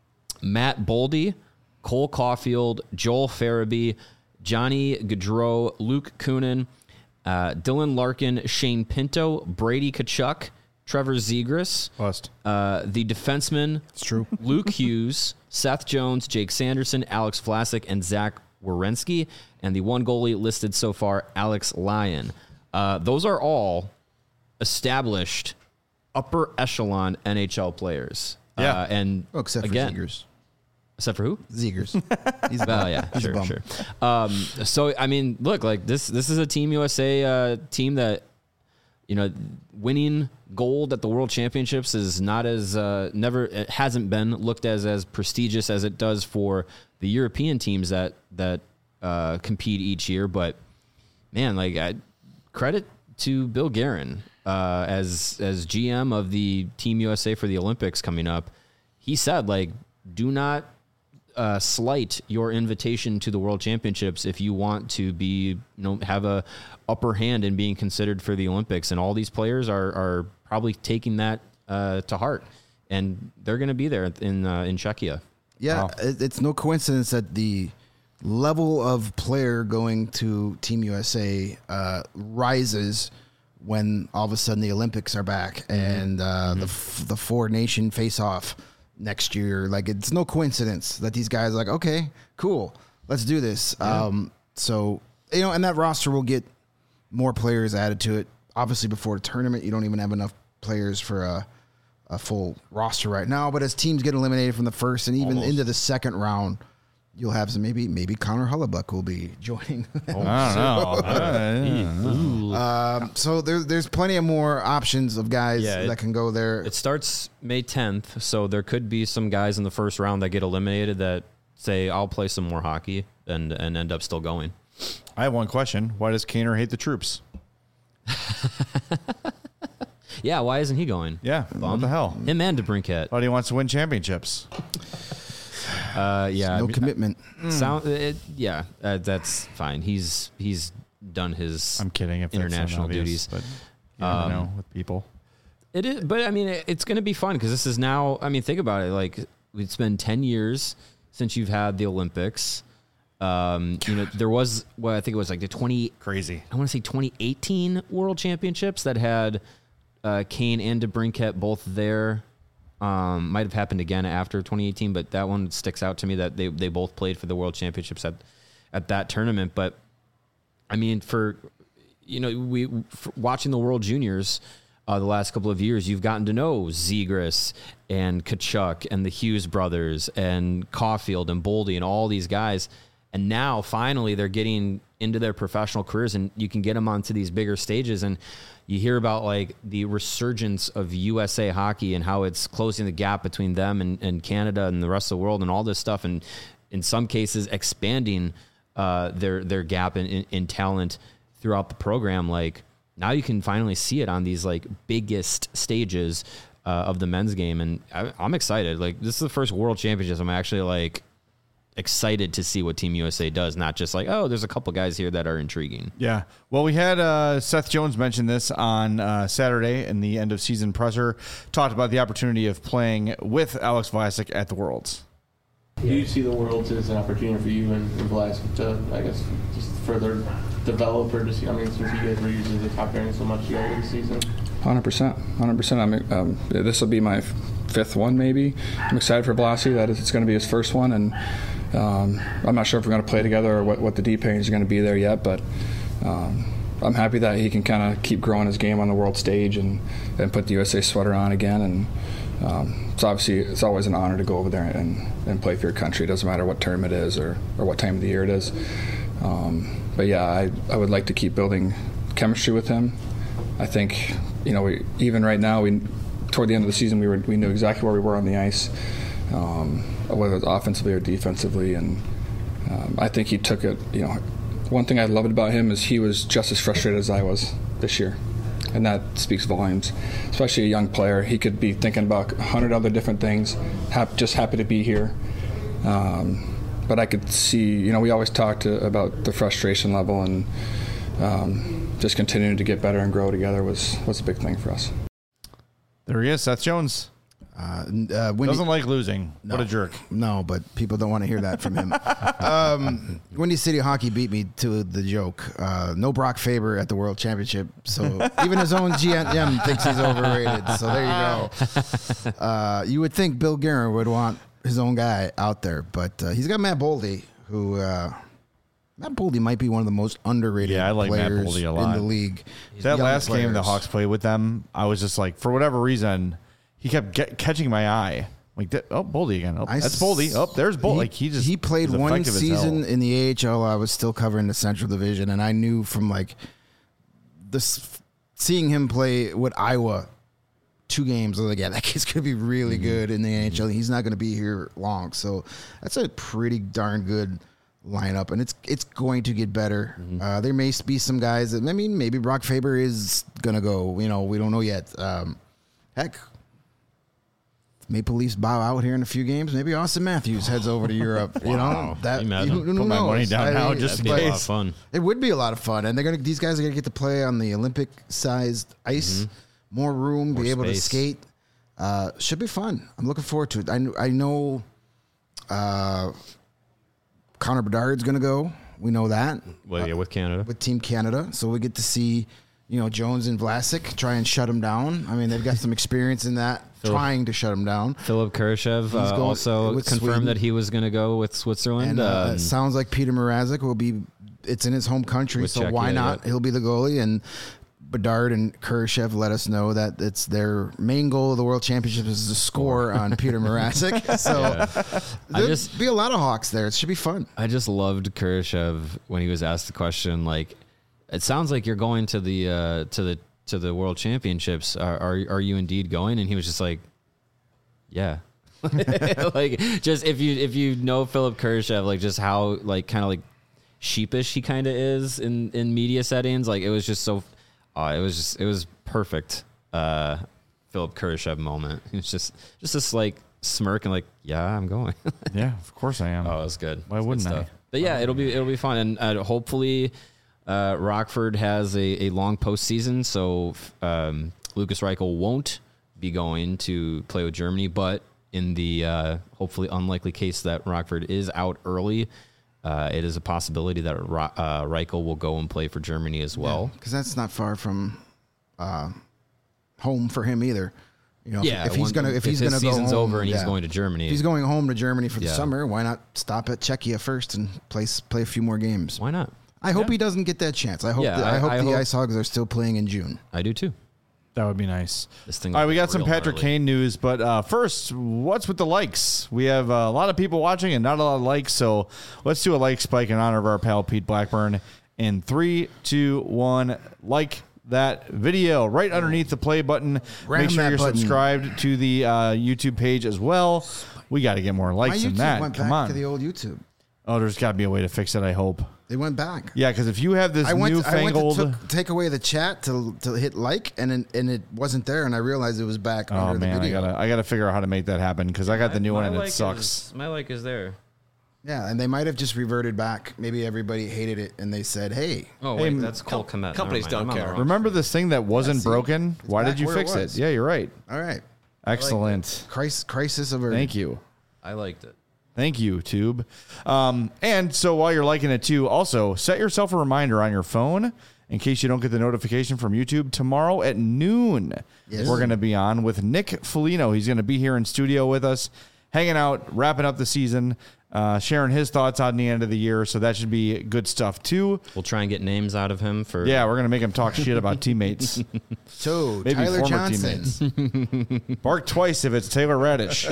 Matt Boldy, Cole Caulfield, Joel Farabee, Johnny Gaudreau, Luke Kunin, uh, Dylan Larkin, Shane Pinto, Brady Tkachuk, Trevor Zegras, Bust. uh, the defensemen, It's true. Luke Hughes, Seth Jones, Jake Sanderson, Alex Vlasic, and Zach Werenski, and the one goalie listed so far, Alex Lyon. Uh, those are all established upper echelon N H L players. Yeah. Uh, and Oh, except for again, Zegers. except for who? Zegers. He's Oh yeah, He's a sure, bum. sure. Um, so I mean, look, like this. This is a Team U S A uh, team that, you know, winning gold at the World Championships is not as uh, never it hasn't been looked as as prestigious as it does for the European teams that that uh, compete each year. But man, like I, credit to Bill Guerin uh, as as G M of the Team U S A for the Olympics coming up. He said, like, do not uh, slight your invitation to the World Championships if you want to be, you know, have a upper hand in being considered for the Olympics. And all these players are are probably taking that uh, to heart, and they're going to be there in uh, in Czechia. Yeah, Wow. it, it's no coincidence that the level of player going to Team U S A uh, rises when all of a sudden the Olympics are back and uh, the f- the four nation face off next year. Like, it's no coincidence that these guys are like, okay, cool, let's do this. Um, so you know, and that roster will get more players added to it. Obviously, before the tournament, you don't even have enough players for a. a full roster right now, but as teams get eliminated from the first and even into the second round, you'll have some, maybe maybe Connor Hellebuck will be joining. I don't know. Uh, um, so there, there's plenty of more options of guys Yeah, it- that can go there. It starts May tenth, so there could be some guys in the first round that get eliminated that say, I'll play some more hockey and, and end up still going. I have one question. Why does Kaner hate the troops? Yeah, why isn't he going? Yeah. What the hell? Him and DeBrincat. Thought he wants to win championships. Uh, yeah. no I mean, commitment. Sound, it, yeah, uh, that's fine. He's he's done his. I'm kidding. If that's International not obvious, duties. but you never Um, know with people. It is, but I mean, it, it's going to be fun because this is now. I mean, think about it. Like, it's been ten years since you've had the Olympics. Um, you know, there was, well, I think it was like the twenty Crazy. I want to say twenty eighteen World Championships that had uh, Kane and DeBrincat both there. Um, might have happened again after twenty eighteen, but that one sticks out to me that they, they both played for the World Championships at at that tournament. But I mean, for you know, we for watching the World Juniors uh, the last couple of years, you've gotten to know Zegras and Kachuk and the Hughes brothers and Caulfield and Boldy and all these guys. And now finally they're getting into their professional careers, and you can get them onto these bigger stages. And you hear about like the resurgence of U S A hockey and how it's closing the gap between them and, and Canada and the rest of the world and all this stuff. And in some cases expanding uh, their, their gap in, in, in talent throughout the program. Like now you can finally see it on these like biggest stages uh, of the men's game. And I, I'm excited. Like this is the first World Championships I'm actually like excited to see what Team U S A does, not just like, oh, there's a couple guys here that are intriguing. Yeah. Well, we had uh, Seth Jones mention this on uh, Saturday in the end of season presser, talked about the opportunity of playing with Alex Vlasic at the Worlds. Do you see the Worlds as an opportunity for you and, and Vlasic to, I guess, just further develop or just, I mean, since you guys were usually the top pairing so much together this season? one hundred percent. one hundred percent. I'm, um, this will be my fifth one, maybe. I'm excited for Blassie. That is, it's going to be his first one, and um, I'm not sure if we're going to play together or what, what the D pairings are going to be there yet, but um, I'm happy that he can kind of keep growing his game on the world stage and, and put the U S A sweater on again. And um, it's obviously it's always an honor to go over there and, and play for your country. It doesn't matter what term it is or, or what time of the year it is. Um, but yeah, I, I would like to keep building chemistry with him. I think, you know, we, even right now, we toward the end of the season, we were we knew exactly where we were on the ice, um, whether it was offensively or defensively, and um, I think he took it. You know, one thing I loved about him is he was just as frustrated as I was this year, and that speaks volumes. Especially a young player, he could be thinking about a hundred other different things, hap- just happy to be here. Um, but I could see, you know, we always talked to, about the frustration level, and um, just continuing to get better and grow together was was a big thing for us. There he is, Seth Jones. Uh, uh, Windy, Doesn't like losing. no, What a jerk. No, but people don't want to hear that from him. um, Windy City Hockey beat me to the joke. Uh, no Brock Faber at the World Championship, so even his own G M thinks he's overrated. So there you go. Uh, you would think Bill Guerin would want his own guy out there, but uh, he's got Matt Boldy, who uh, Matt Boldy might be one of the most underrated Yeah, I like Matt players Boldy a in lot. the league. That Young last game the players. Hawks played with them, I was just like, for whatever reason, he kept get, catching my eye. Like, that, oh, Boldy again. Oh, I that's s- Boldy. Oh, there's Boldy. He, Like, he just he played was one effective as season hell. in the A H L. I was still covering the Central Division, and I knew from like this seeing him play with Iowa two games. I was like, yeah, that kid's gonna be really Mm-hmm. good in the N H L. He's not gonna be here long, so that's a pretty darn good lineup, and it's it's going to get better. Mm-hmm. Uh, there may be some guys that I mean, maybe Brock Faber is gonna go. You know, we don't know yet. Um, heck. Maple Leafs bow out here in a few games. Maybe Austin Matthews heads over to Europe. You know that. Can you imagine? who- who Put my knows? money down I now mean, just in It'd be a lot but of fun. It would be a lot of fun, and they're gonna. These guys are gonna get to play on the Olympic-sized ice, more room, Mm-hmm. More be able to space. skate. Uh, should be fun. I'm looking forward to it. I kn- I know. Uh, Connor Bedard's gonna go. We know that Well, yeah, with Canada. with Team Canada, so we get to see, you know, Jones and Vlasic try and shut him down. I mean, they've got some experience in that, trying to shut him down. Philip Kurashev uh, going also with confirmed Sweden. that he was going to go with Switzerland. And uh, um, it sounds like Peter Mrazek will be. It's in his home country, With so Czech, why yeah, not? yeah. He'll be the goalie, and Bedard and Kurashev let us know that it's their main goal of the World Championship is to score on Peter Mrazek. So I there'll just- be a lot of Hawks there. It should be fun. I just loved Kurashev when he was asked the question, like, it sounds like you're going to the uh, to the to the World Championships. Are, are are you indeed going? And he was just like, yeah. Like, just if you if you know Philip Kurashev, like just how like kind of like sheepish he kind of is in in media settings, like it was just so uh, it was just it was perfect. Uh, Philip Kurashev moment. It was just just this like smirk and like, yeah, I'm going. Yeah, of course I am. Oh, it was good. Why It's good wouldn't I? stuff. But yeah, it'll be it'll be fun, and uh, hopefully, uh, Rockford has a, a long postseason, so um, Lucas Reichel won't be going to play with Germany. But in the uh, hopefully unlikely case that Rockford is out early, Uh, it is a possibility that uh, Reichel will go and play for Germany as well. Because yeah, that's not far from uh, home for him either. You know, yeah, if, if he's one, gonna if, if he's his gonna season's go home, over and yeah. he's going to Germany, if he's going home to Germany for the yeah. summer. Why not stop at Czechia first and play play a few more games? Why not? I hope yeah. he doesn't get that chance. I hope Yeah, the, I, I- hope I the hope- Ice Hogs are still playing in June. I do too. That would be nice. This thing. All right, we got some real Patrick gnarly. Kane news, but uh, first, what's with the likes? We have uh, a lot of people watching and not a lot of likes, so let's do a like spike in honor of our pal Pete Blackburn. In three, two, one, like that video right underneath the play button. Ram Make sure that you're button. subscribed to the uh, YouTube page as well. We got to get more My likes than YouTube that. went Come back on. to the old YouTube. Oh, there's got to be a way to fix it, I hope. They went back. Yeah, because if you have this I went. I went newfangled... to took, take away the chat to to hit like, and it, and it wasn't there, and I realized it was back Oh under man, the I video. gotta I gotta figure out how to make that happen because I got the new My one and like it sucks. Is, my like is there. Yeah, and they might have just reverted back. Maybe everybody hated it, and they said, "Hey, Oh Hey, wait, m- that's Cole Komet. companies Never mind, don't I'm on the care. wrong- Remember this thing that wasn't see, broken? it's Why back did you where it fix it? was. Yeah, you're right. all right, Excellent. crisis, crisis averted." Thank you. I liked it. Thank you, Tube. Um, and so while you're liking it too, also set yourself a reminder on your phone in case you don't get the notification from YouTube. Tomorrow at noon, Yes. we're going to be on with Nick Foligno. He's going to be here in studio with us, hanging out, wrapping up the season, uh, sharing his thoughts on the end of the year. So that should be good stuff too. We'll try and get names out of him for. Yeah, we're going to make him talk shit about teammates. So Maybe Tyler former Johnson, teammates. Bark twice if it's Taylor Radish.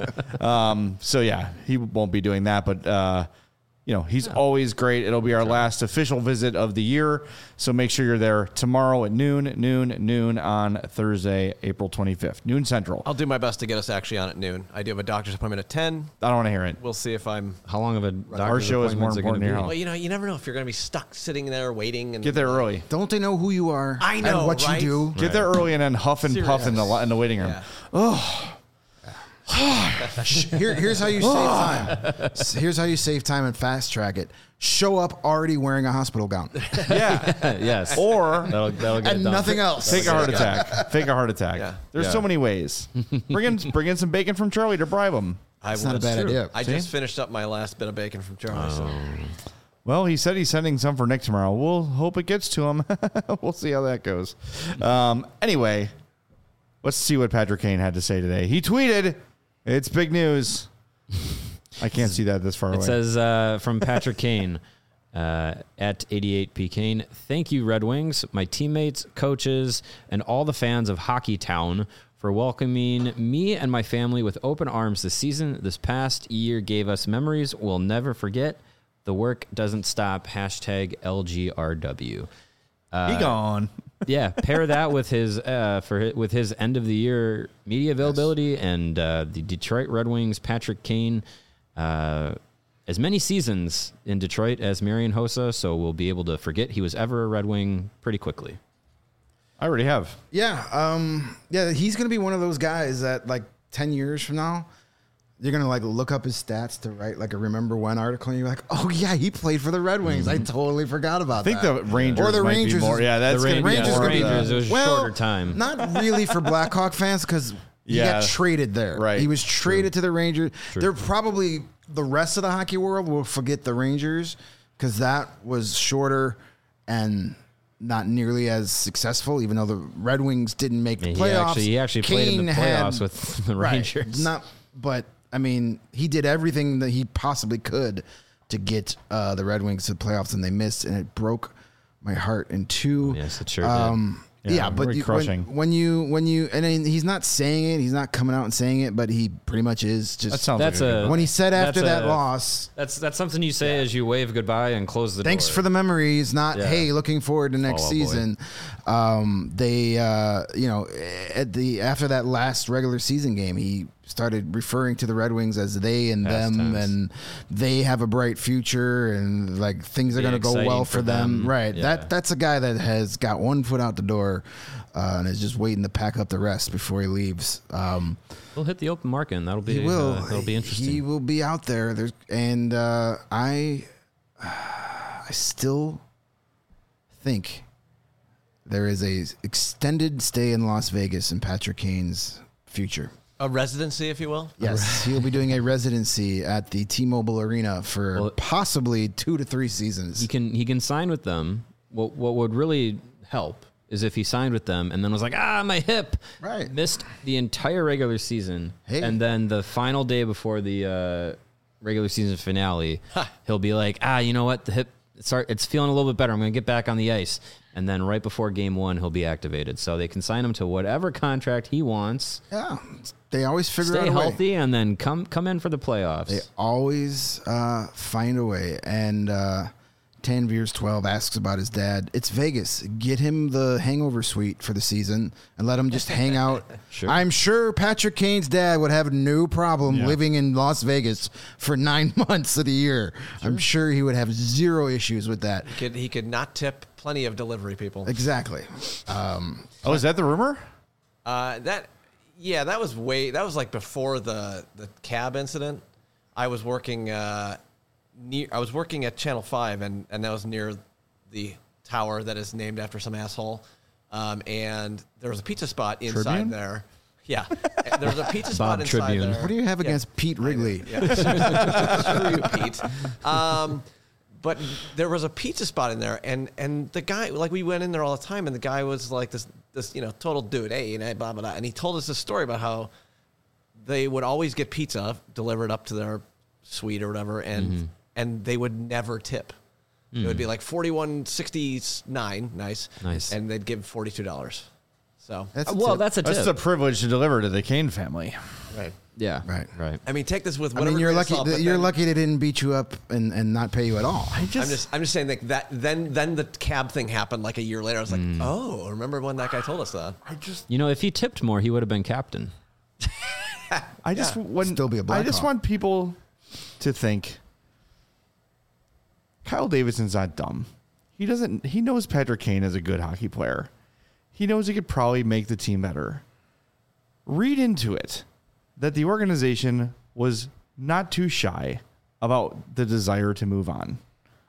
um, so yeah, he won't be doing that, but uh, you know, he's always great. It'll be our last official visit of the year. So make sure you're there tomorrow at noon, noon, noon on Thursday, April twenty-fifth, noon central. I'll do my best to get us actually on at noon. I do have a doctor's appointment at ten. I don't want to hear it. We'll see if I'm. How long of a doctor's Our show is more appointments are important gonna here, be? huh? Well, you know, you never know if you're going to be stuck sitting there waiting. And Get there early. don't they know who you are? I know, and what right? you do. Get there early and then huff and puff in the, li- in the waiting room. Yeah. Here, here's how you save time. S- Here's how you save time and fast track it. Show up already wearing a hospital gown Yeah. yes. Or That'll, that'll get it and done. nothing else. fake a heart attack. Fake a heart attack. Yeah. There's Yeah. so many ways. Bring in, bring in some bacon from Charlie to bribe him. I It's not a will- bad idea. I See? just finished up my last bit of bacon from Charlie. So. Well, he said he's sending some for Nick tomorrow. We'll hope it gets to him. We'll see how that goes. Um, anyway, let's see what Patrick Kane had to say today. He tweeted, "It's big news." I can't see that this far It away. says uh, from Patrick Kane uh, at eighty-eight P Kane. Thank you, Red Wings, my teammates, coaches, and all the fans of Hockey Town for welcoming me and my family with open arms this season. This past year gave us memories we'll never forget. The work doesn't stop. Hashtag L G R W. he gone. Yeah, pair that with his uh, for hi- with his end of the year media availability and uh, the Detroit Red Wings Patrick Kane, uh, as many seasons in Detroit as Marian Hossa, so we'll be able to forget he was ever a Red Wing pretty quickly. I already have. Yeah, um, yeah, he's gonna be one of those guys that like ten years from now, you're gonna like look up his stats to write like a remember when article, and you're like, oh yeah, he played for the Red Wings. I totally forgot about I think that. the Rangers Or the might Rangers be more. is- Yeah, that's the going to Rangers, be Rangers more gonna of be- the- Rangers, it was a well, shorter time. Not really for Blackhawk fans because he Yeah. got traded there. Right. He was traded to the Rangers. True. They're probably the rest of the hockey world will forget the Rangers because that was shorter and not nearly as successful. Even though the Red Wings didn't make the Yeah, he playoffs, actually- he actually played in the Kane had- playoffs with the Right. Rangers. Not, but I mean, he did everything that he possibly could to get uh, the Red Wings to the playoffs, and they missed, and it broke my heart in two. Yes, it sure did. Um, Yeah, yeah, but very you, crushing. when, when you when you and then he's not saying it, he's not coming out and saying it, but he pretty much is. Just That sounds That's like a, good a- when he said after that's that a- loss, That's that's something you say as you wave goodbye and close the thanks door. for the memories. Not Yeah. hey, looking forward to next Oh, boy. season. Um, they, uh, you know, at the after that last regular season game, he started referring to the Red Wings as they and Past them, tense. and they have a bright future, and like things are Be going to go exciting well for for them. them. Right. Yeah. That that's a guy that has got one foot out the door. Uh, and is just waiting to pack up the rest before he leaves. Um, He'll hit the open market, and that'll be he will. Uh, that'll be interesting. He will be out there. There's, and uh, I, I still think there is a extended stay in Las Vegas in Patrick Kane's future. A residency, if you will. Yes, he'll be doing a residency at the T-Mobile Arena for Well, possibly two to three seasons. He can he can sign with them. What what would really help is if he signed with them and then was like, ah, my hip, Right. missed the entire regular season, Hey. and then the final day before the uh, regular season finale, he'll be like, ah, you know what, the hip, start, it's feeling a little bit better. I'm going to get back on the ice, and then right before game one, he'll be activated. So they can sign him to whatever contract he wants. Yeah, they always figure Stay out a way. healthy, and then come come in for the playoffs. They always uh, find a way. And uh, Tanveers twelve asks about his dad. It's Vegas. Get him the hangover suite for the season and let him just hang out. Sure. I'm sure Patrick Kane's dad would have no problem Yeah. living in Las Vegas for nine months of the year. I'm sure he would have zero issues with that. He could, he could not tip plenty of delivery people. Exactly. Um, Oh, is that the rumor? Uh, that, yeah, that was way, that was like before the, the cab incident. I was working, uh, near, I was working at Channel five, and, and that was near the tower that is named after some asshole. Um, and there was a pizza spot inside Tribune? there. Yeah. There was a pizza spot Bob inside Tribune. there. what do you have Yeah. against Pete Wrigley? Yeah. Screw you, Pete. Um, but there was a pizza spot in there, and and the guy, like, we went in there all the time, and the guy was like this this you know total dude, hey, you know, blah blah blah, and he told us this story about how they would always get pizza delivered up to their suite or whatever, and Mm-hmm. and they would never tip. It would be like forty one sixty nine, nice, Nice. and they'd give forty two dollars. So That's a well, tip. that's a tip. That's a privilege to deliver to the Kane family. right. yeah, Right. right. I mean, take this with I whatever. mean, you're grain of lucky. salt, that but you're then- lucky they didn't beat you up and, and not pay you at all. I just, I'm just, I'm just saying that, that then, then the cab thing happened like a year later. I was like, Mm. oh, remember when that guy told us that? I just, You know, if he tipped more, he would have been captain. I just want Still be a I just Blackhawk. want people to think Kyle Davidson's not dumb. He doesn't. He knows Patrick Kane is a good hockey player. He knows he could probably make the team better. Read into it that the organization was not too shy about the desire to move on.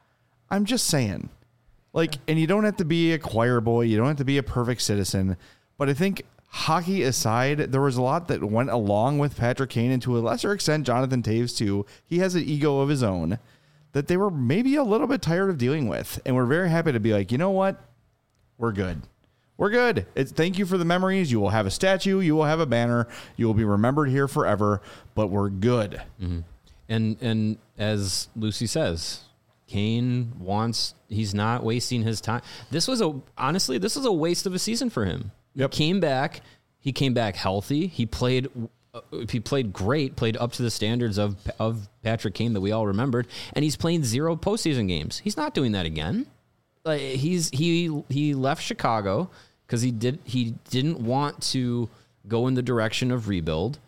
I'm just saying. Like, and you don't have to be a choir boy. You don't have to be a perfect citizen. But I think hockey aside, there was a lot that went along with Patrick Kane, and to a lesser extent, Jonathan Taves too. He has an ego of his own that they were maybe a little bit tired of dealing with. And we're very happy to be like, you know what? We're good. We're good. It's, thank you for the memories. You will have a statue. You will have a banner. You will be remembered here forever. But we're good. Mm-hmm. And and as Lucy says, Kane wants. He's not wasting his time. This was a honestly, this was a waste of a season for him. Yep. He came back. He came back healthy. He played. Uh, he played great. Played up to the standards of of Patrick Kane that we all remembered. And he's playing zero postseason games. He's not doing that again. Like he's he he left Chicago because he did he didn't want to go in the direction of rebuild,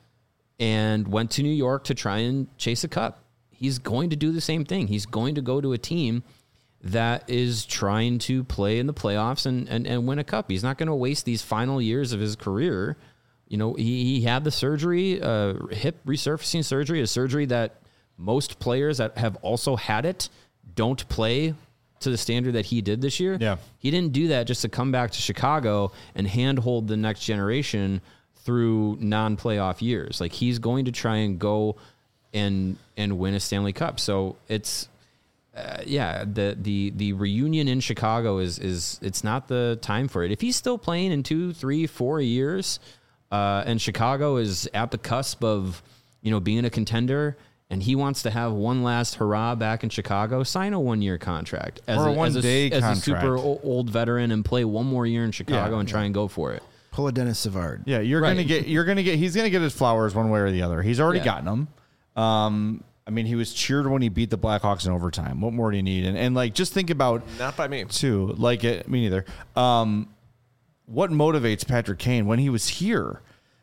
and went to New York to try and chase a cup. He's going to do the same thing. He's going to go to a team that is trying to play in the playoffs and, and, and win a cup. He's not going to waste these final years of his career. You know, he, he had the surgery, uh, hip resurfacing surgery, a surgery that most players that have also had it don't play to the standard that he did this year. Yeah. He didn't do that just to come back to Chicago and handhold the next generation through non-playoff years. Like, he's going to try and go and and win a Stanley Cup. So it's uh, yeah, the the the reunion in Chicago is is it's not the time for it. If he's still playing in two, three, four years, uh, and Chicago is at the cusp of, you know, being a contender, and he wants to have one last hurrah back in Chicago, sign a one year contract as Or a as one-day as contract. a super o- old veteran and play one more year in Chicago Yeah, and try and go for it. Pull a Dennis Savard. Yeah, you're Right. gonna get. You're gonna get. He's gonna get his flowers one way or the other. He's already Yeah. gotten them. Um, I mean, he was cheered when he beat the Blackhawks in overtime. What more do you need? And and like, just think about Not by me. too. Like, it, me neither. Um, what motivates Patrick Kane when he was here?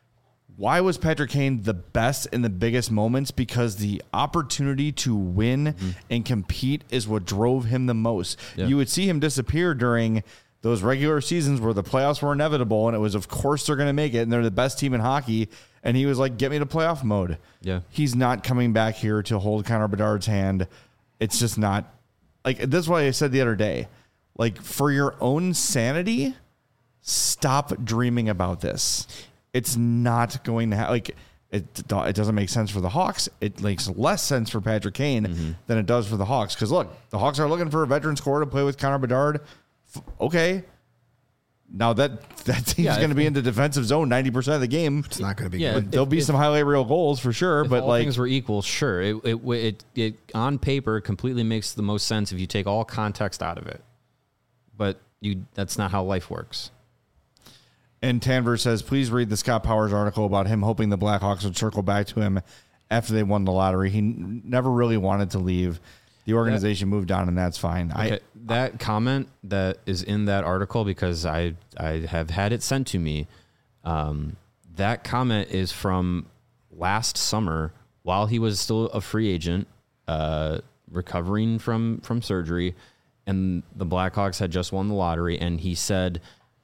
Why was Patrick Kane the best in the biggest moments? Because the opportunity to win Mm-hmm. and compete is what drove him the most. Yeah. You would see him disappear during those regular seasons where the playoffs were inevitable, and it was, of course, they're going to make it, and they're the best team in hockey. And he was like, get me to playoff mode. Yeah. He's not coming back here to hold Connor Bedard's hand. It's just not like, that's why I said the other day, like, for your own sanity, stop dreaming about this. it's not going to have like it. It doesn't make sense for the Hawks. It makes less sense for Patrick Kane mm-hmm. than it does for the Hawks. Because look, the Hawks are looking for a veteran scorer to play with Connor Bedard. F- okay. Now that that team's yeah, going to be in the defensive zone ninety percent of the game. It's not going to be yeah, good. If, There'll be if, some highlight reel goals for sure, if but all like things were equal, sure. It, it it it on paper completely makes the most sense if you take all context out of it. But you that's not how life works. And Tanver says, please read the Scott Powers article about him hoping the Blackhawks would circle back to him after they won the lottery. He n- never really wanted to leave. The organization that, moved on, and that's fine. Okay, I, that comment that is in that article, because I I have had it sent to me, um, that comment is from last summer while he was still a free agent, uh, recovering from, from surgery, and the Blackhawks had just won the lottery, and he said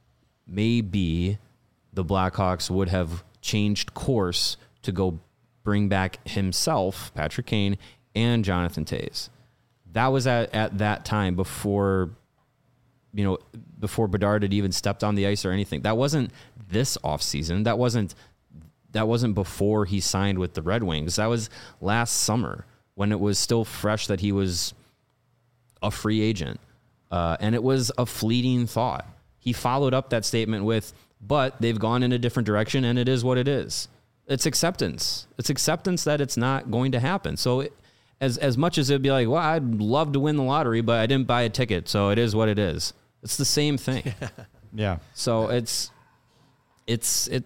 maybe the Blackhawks would have changed course to go bring back himself, Patrick Kane, and Jonathan Toews. That was at, at that time before, you know, before Bedard had even stepped on the ice or anything. That wasn't this offseason. That wasn't that wasn't before he signed with the Red Wings. That was last summer when it was still fresh that he was a free agent. Uh, and it was a fleeting thought. He followed up that statement with, but they've gone in a different direction and it is what it is. It's acceptance. It's acceptance that it's not going to happen. So it, As as much as it'd be like, well, I'd love to win the lottery, but I didn't buy a ticket, so it is what it is. It's the same thing. yeah. So it's it's it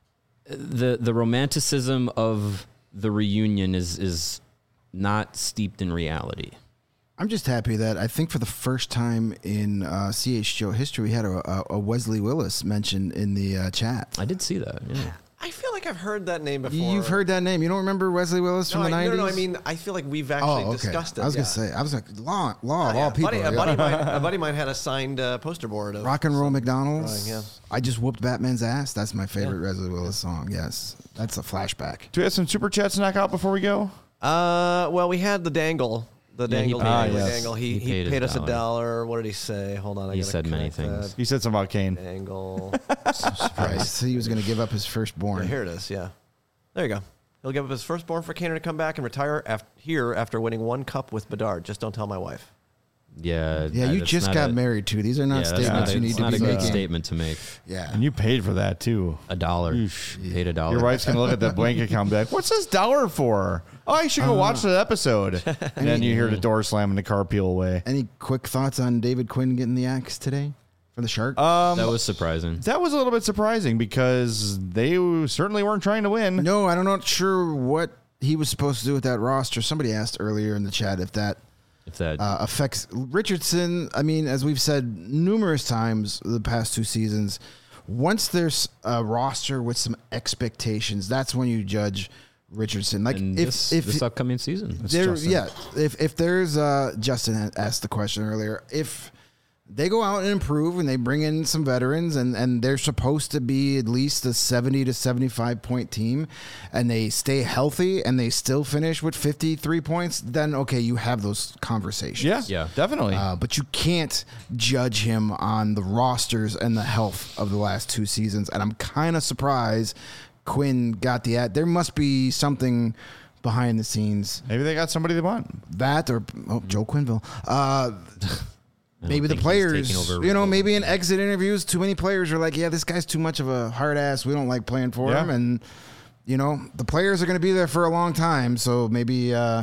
the the romanticism of the reunion is is not steeped in reality. I'm just happy that I think for the first time in uh, C H G O history, we had a, a Wesley Willis mentioned in the uh, chat. I did see that. Yeah. I feel like I've heard that name before. You've heard that name. You don't remember Wesley Willis no, from the I, nineties? No, no, I mean, I feel like we've actually oh, okay. discussed it. I was yeah. going to say, I was like, law, law Oh, of yeah. all people. Buddy, yeah. a, buddy mine, a buddy mine had a signed uh, poster board of Rock and Roll McDonald's. Drawing, yeah. I just whooped Batman's ass. That's my favorite Yeah. Wesley Willis song. Yes. That's a flashback. Do we have some super chats to knock out before we go? Uh, well, we had the dangle. The Yeah, he dangle, paid dangle, us. dangle. He, He he paid paid, us us a a dollar. What did he say? Hold on. I He gotta said many connect things. He said something about Kane. that. Dangle. Right. So he was going to give up his Yeah, firstborn. here it is. Yeah. There you go. He'll give up his firstborn for Kaner to come back and retire af- here after winning one cup with Bedard. Just don't tell my wife. Yeah. Yeah, uh, you that's just not got a, married, too. These are not yeah, that's statements not, you need it's to not be a good making. statement to make. Yeah. And you paid for that too. A dollar. Oof. Paid a dollar. Your wife's going to look at that bank account and be like, what's this dollar for? Oh, I should go watch that episode. And then you hear the door slam and the car peel away. Any quick thoughts on David Quinn getting the axe today for the Shark? Um, That was surprising. That was a little bit surprising because they certainly weren't trying to win. No, I'm not sure what he was supposed to do with that roster. Somebody asked earlier in the chat if that If that uh, affects Richardson. I mean, as we've said numerous times the past two seasons, once there's a roster with some expectations, that's when you judge Richardson. Like and if this, if this upcoming season. there, Justin. yeah, if if there's uh, Justin had asked the question earlier, if they go out and improve and they bring in some veterans and, and they're supposed to be at least a seventy to seventy-five point team and they stay healthy and they still finish with fifty-three points, then okay, you have those conversations. Yeah, Yeah. definitely. Uh, but you can't judge him on the rosters and the health of the last two seasons. And I'm kind of surprised Quinn got the ad. There must be something behind the scenes. Maybe they got somebody they want. That or oh, Joe Quenneville. Uh, I don't maybe the think he's players, taking over you know, Red maybe in Bull. exit interviews, too many players are like, yeah, this guy's too much of a hard ass. We don't like playing for Yeah. him. And, you know, the players are going to be there for a long time. So maybe, uh,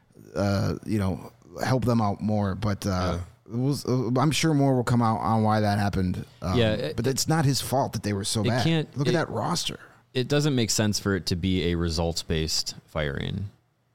uh, you know, help them out more. But uh, it was, uh, I'm sure more will come out on why that happened. Um, Yeah, it- but it's not his fault that they were so it bad. can't- Look it- at that roster. It doesn't make sense for it to be a results based firing.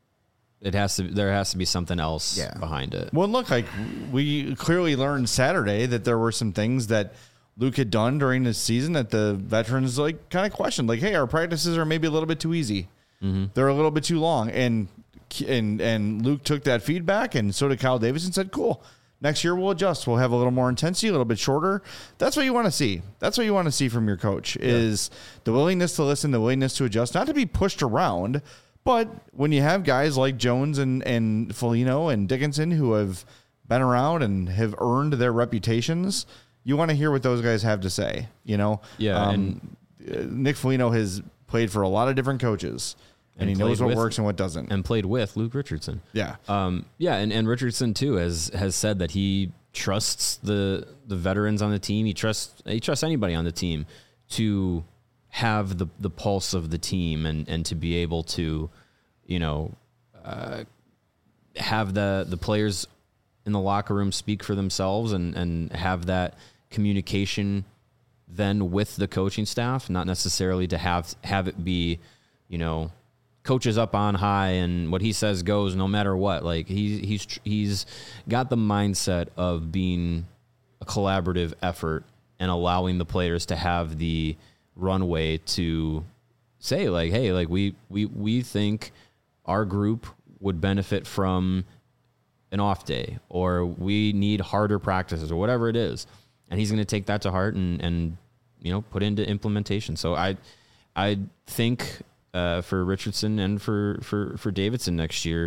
It has to. There has to be something else Yeah. behind it. Well, look, like we clearly learned Saturday that there were some things that Luke had done during the season that the veterans like kind of questioned. Like, hey, our practices are maybe a little bit too easy. Mm-hmm. They're a little bit too long. And and and Luke took that feedback, and so did Kyle Davis, and said, cool. Next year we'll adjust. We'll have a little more intensity, a little bit shorter. That's what you want to see. That's what you want to see from your coach is the willingness to listen, the willingness to adjust, not to be pushed around. But when you have guys like Jones and, and Foligno and Dickinson who have been around and have earned their reputations, you want to hear what those guys have to say, you know? Yeah, Um, and Nick Foligno has played for a lot of different coaches, and, and he knows what with, works and what doesn't. And played with Luke Richardson. Yeah. Um, yeah, and, and Richardson, too, has, has said that he trusts the the veterans on the team. He trusts he trusts anybody on the team to have the, the pulse of the team and, and to be able to, you know, uh, have the, the players in the locker room speak for themselves and, and have that communication then with the coaching staff, not necessarily to have have it be, you know, coaches up on high and what he says goes no matter what. Like he, he's he's got the mindset of being a collaborative effort and allowing the players to have the runway to say like, hey, like we we we think our group would benefit from an off day, or we need harder practices, or whatever it is. And he's going to take that to heart and, and, you know, put into implementation. So I, I think uh, for Richardson and for, for, for Davidson next year,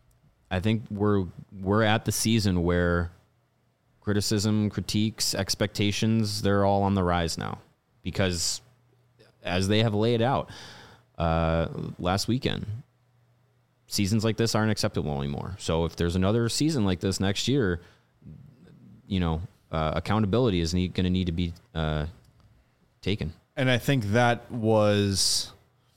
I think we're, we're at the season where criticism, critiques, expectations, they're all on the rise now, because as they have laid out uh, last weekend, seasons like this aren't acceptable anymore. So if there's another season like this next year, you know, uh, accountability is going to need to be uh, taken. And I think that was,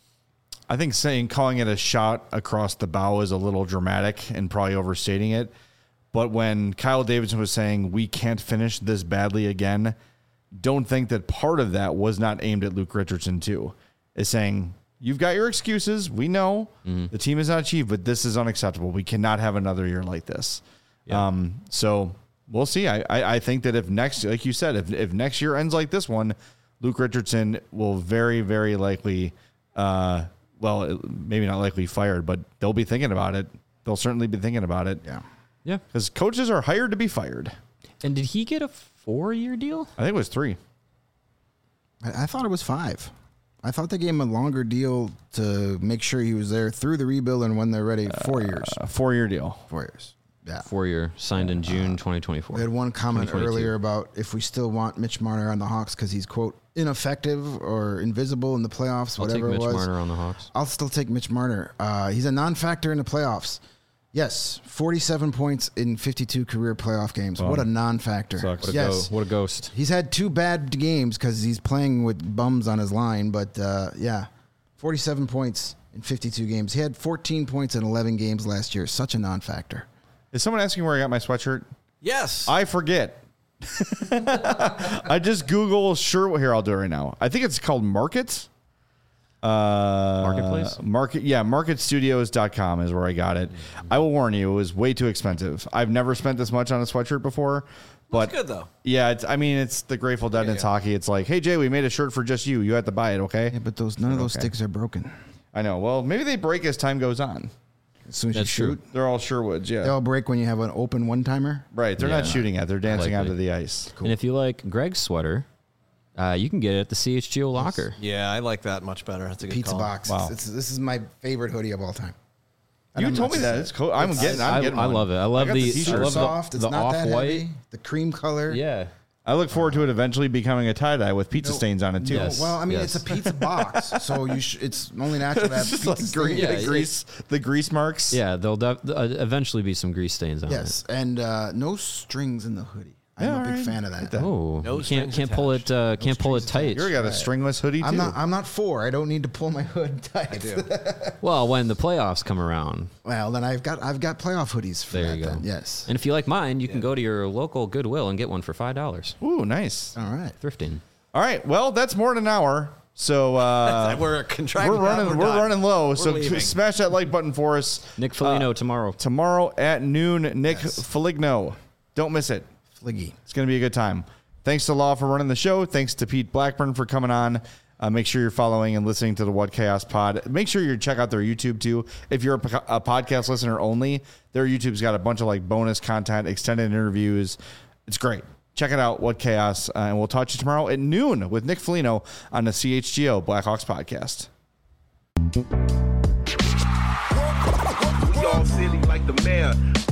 I think saying, calling it a shot across the bow is a little dramatic and probably overstating it. But when Kyle Davidson was saying, we can't finish this badly again, don't think that part of that was not aimed at Luke Richardson too. Is saying, you've got your excuses. We know mm-hmm. the team is not achieved, but this is unacceptable. We cannot have another year like this. Yeah. Um, so we'll see. I, I, I think that if next, like you said, if, if next year ends like this one, Luke Richardson will very, very likely, uh, well, maybe not likely fired, but they'll be thinking about it. They'll certainly be thinking about it. Yeah. Yeah. Because coaches are hired to be fired. And did he get a four-year deal? I think it was three. I, I thought it was five. I thought they gave him a longer deal to make sure he was there through the rebuild and when they're ready. Four uh, years. A four-year deal. Four years. Yeah. Four-year, signed in June twenty twenty-four. We had one comment earlier about if we still want Mitch Marner on the Hawks because he's, quote, ineffective or invisible in the playoffs, I'll whatever take Mitch it was. Marner on the Hawks. I'll still take Mitch Marner. Uh, he's a non-factor in the playoffs. Yes, forty-seven points in fifty-two career playoff games. Well, what a non-factor. Sucks. What a, yes. go, what a ghost. He's had two bad games because he's playing with bums on his line, but uh, yeah, forty-seven points in fifty-two games. He had fourteen points in eleven games last year. Such a non-factor. Is someone asking where I got my sweatshirt? Yes. I forget. I just Google shirt. Here, I'll do it right now. I think it's called Market. Uh, Marketplace? Market, yeah, market studios dot com is where I got it. I will warn you, it was way too expensive. I've never spent this much on a sweatshirt before. But That's good, though. Yeah, it's, I mean, it's the Grateful Dead and it's hockey. It's like, hey, Jay, we made a shirt for just you. You have to buy it, okay? Yeah, but those none of those Okay. sticks are broken. I know. Well, maybe they break as time goes on. As soon as That's you true. shoot, They're all Sherwoods, yeah. they all break when you have an open one-timer. Right, they're not Yeah. shooting at. They're dancing Likely. onto the ice. And if you like Greg's sweater, uh, you can get it at the C H G O locker. Yeah, I like that much better. That's a good Pizza call. box. Wow. It's, this is my favorite hoodie of all time. And You I'm told not me that. saying- It's cool. I'm It's- getting. I'm I, getting. I one. love it. I love got the, the I t-shirt. love Super the, soft. It's the not that off-white. heavy. The cream color. Yeah. I look forward to it eventually becoming a tie dye with pizza No, stains on it too. No, Yes. well, I mean, yes. it's a pizza box, so you sh- it's only natural to have It's just pizza like grease, stains. Yeah, the it- grease, the grease marks. Yeah, there'll def- uh, eventually be some grease stains on Yes, and uh, no strings in the hoodie. I'm Yeah, a big alright. fan of that. Like that. it. Oh, No you can't strings can't pull it uh, can't pull it tight. You got a stringless hoodie too. I'm not. I'm not for. I don't need to pull my hood tight. I do. Well, when the playoffs come around, Well, then I've got I've got playoff hoodies for there that. you go. Then. Yes. And if you like mine, you can go to your local Goodwill and get one for five dollars. Ooh, nice. All right. Thrifting. All right. Well, that's more than an hour. So uh, we're contracting. we're running. We're, We're, done. running low. We're so leaving. smash that like button for us. Nick Foligno tomorrow. Tomorrow at noon, Nick Foligno. Don't miss it. Fliggy. It's going to be a good time. Thanks to Law for running the show. Thanks to Pete Blackburn for coming on. Uh, make sure you're following and listening to the What Chaos Pod. Make sure you check out their YouTube too. If you're a, po- a podcast listener only, their YouTube's got a bunch of like bonus content, extended interviews. It's great. Check it out, What Chaos. Uh, and we'll talk to you tomorrow at noon with Nick Foligno on the C H G O Blackhawks podcast. We all silly like the mayor.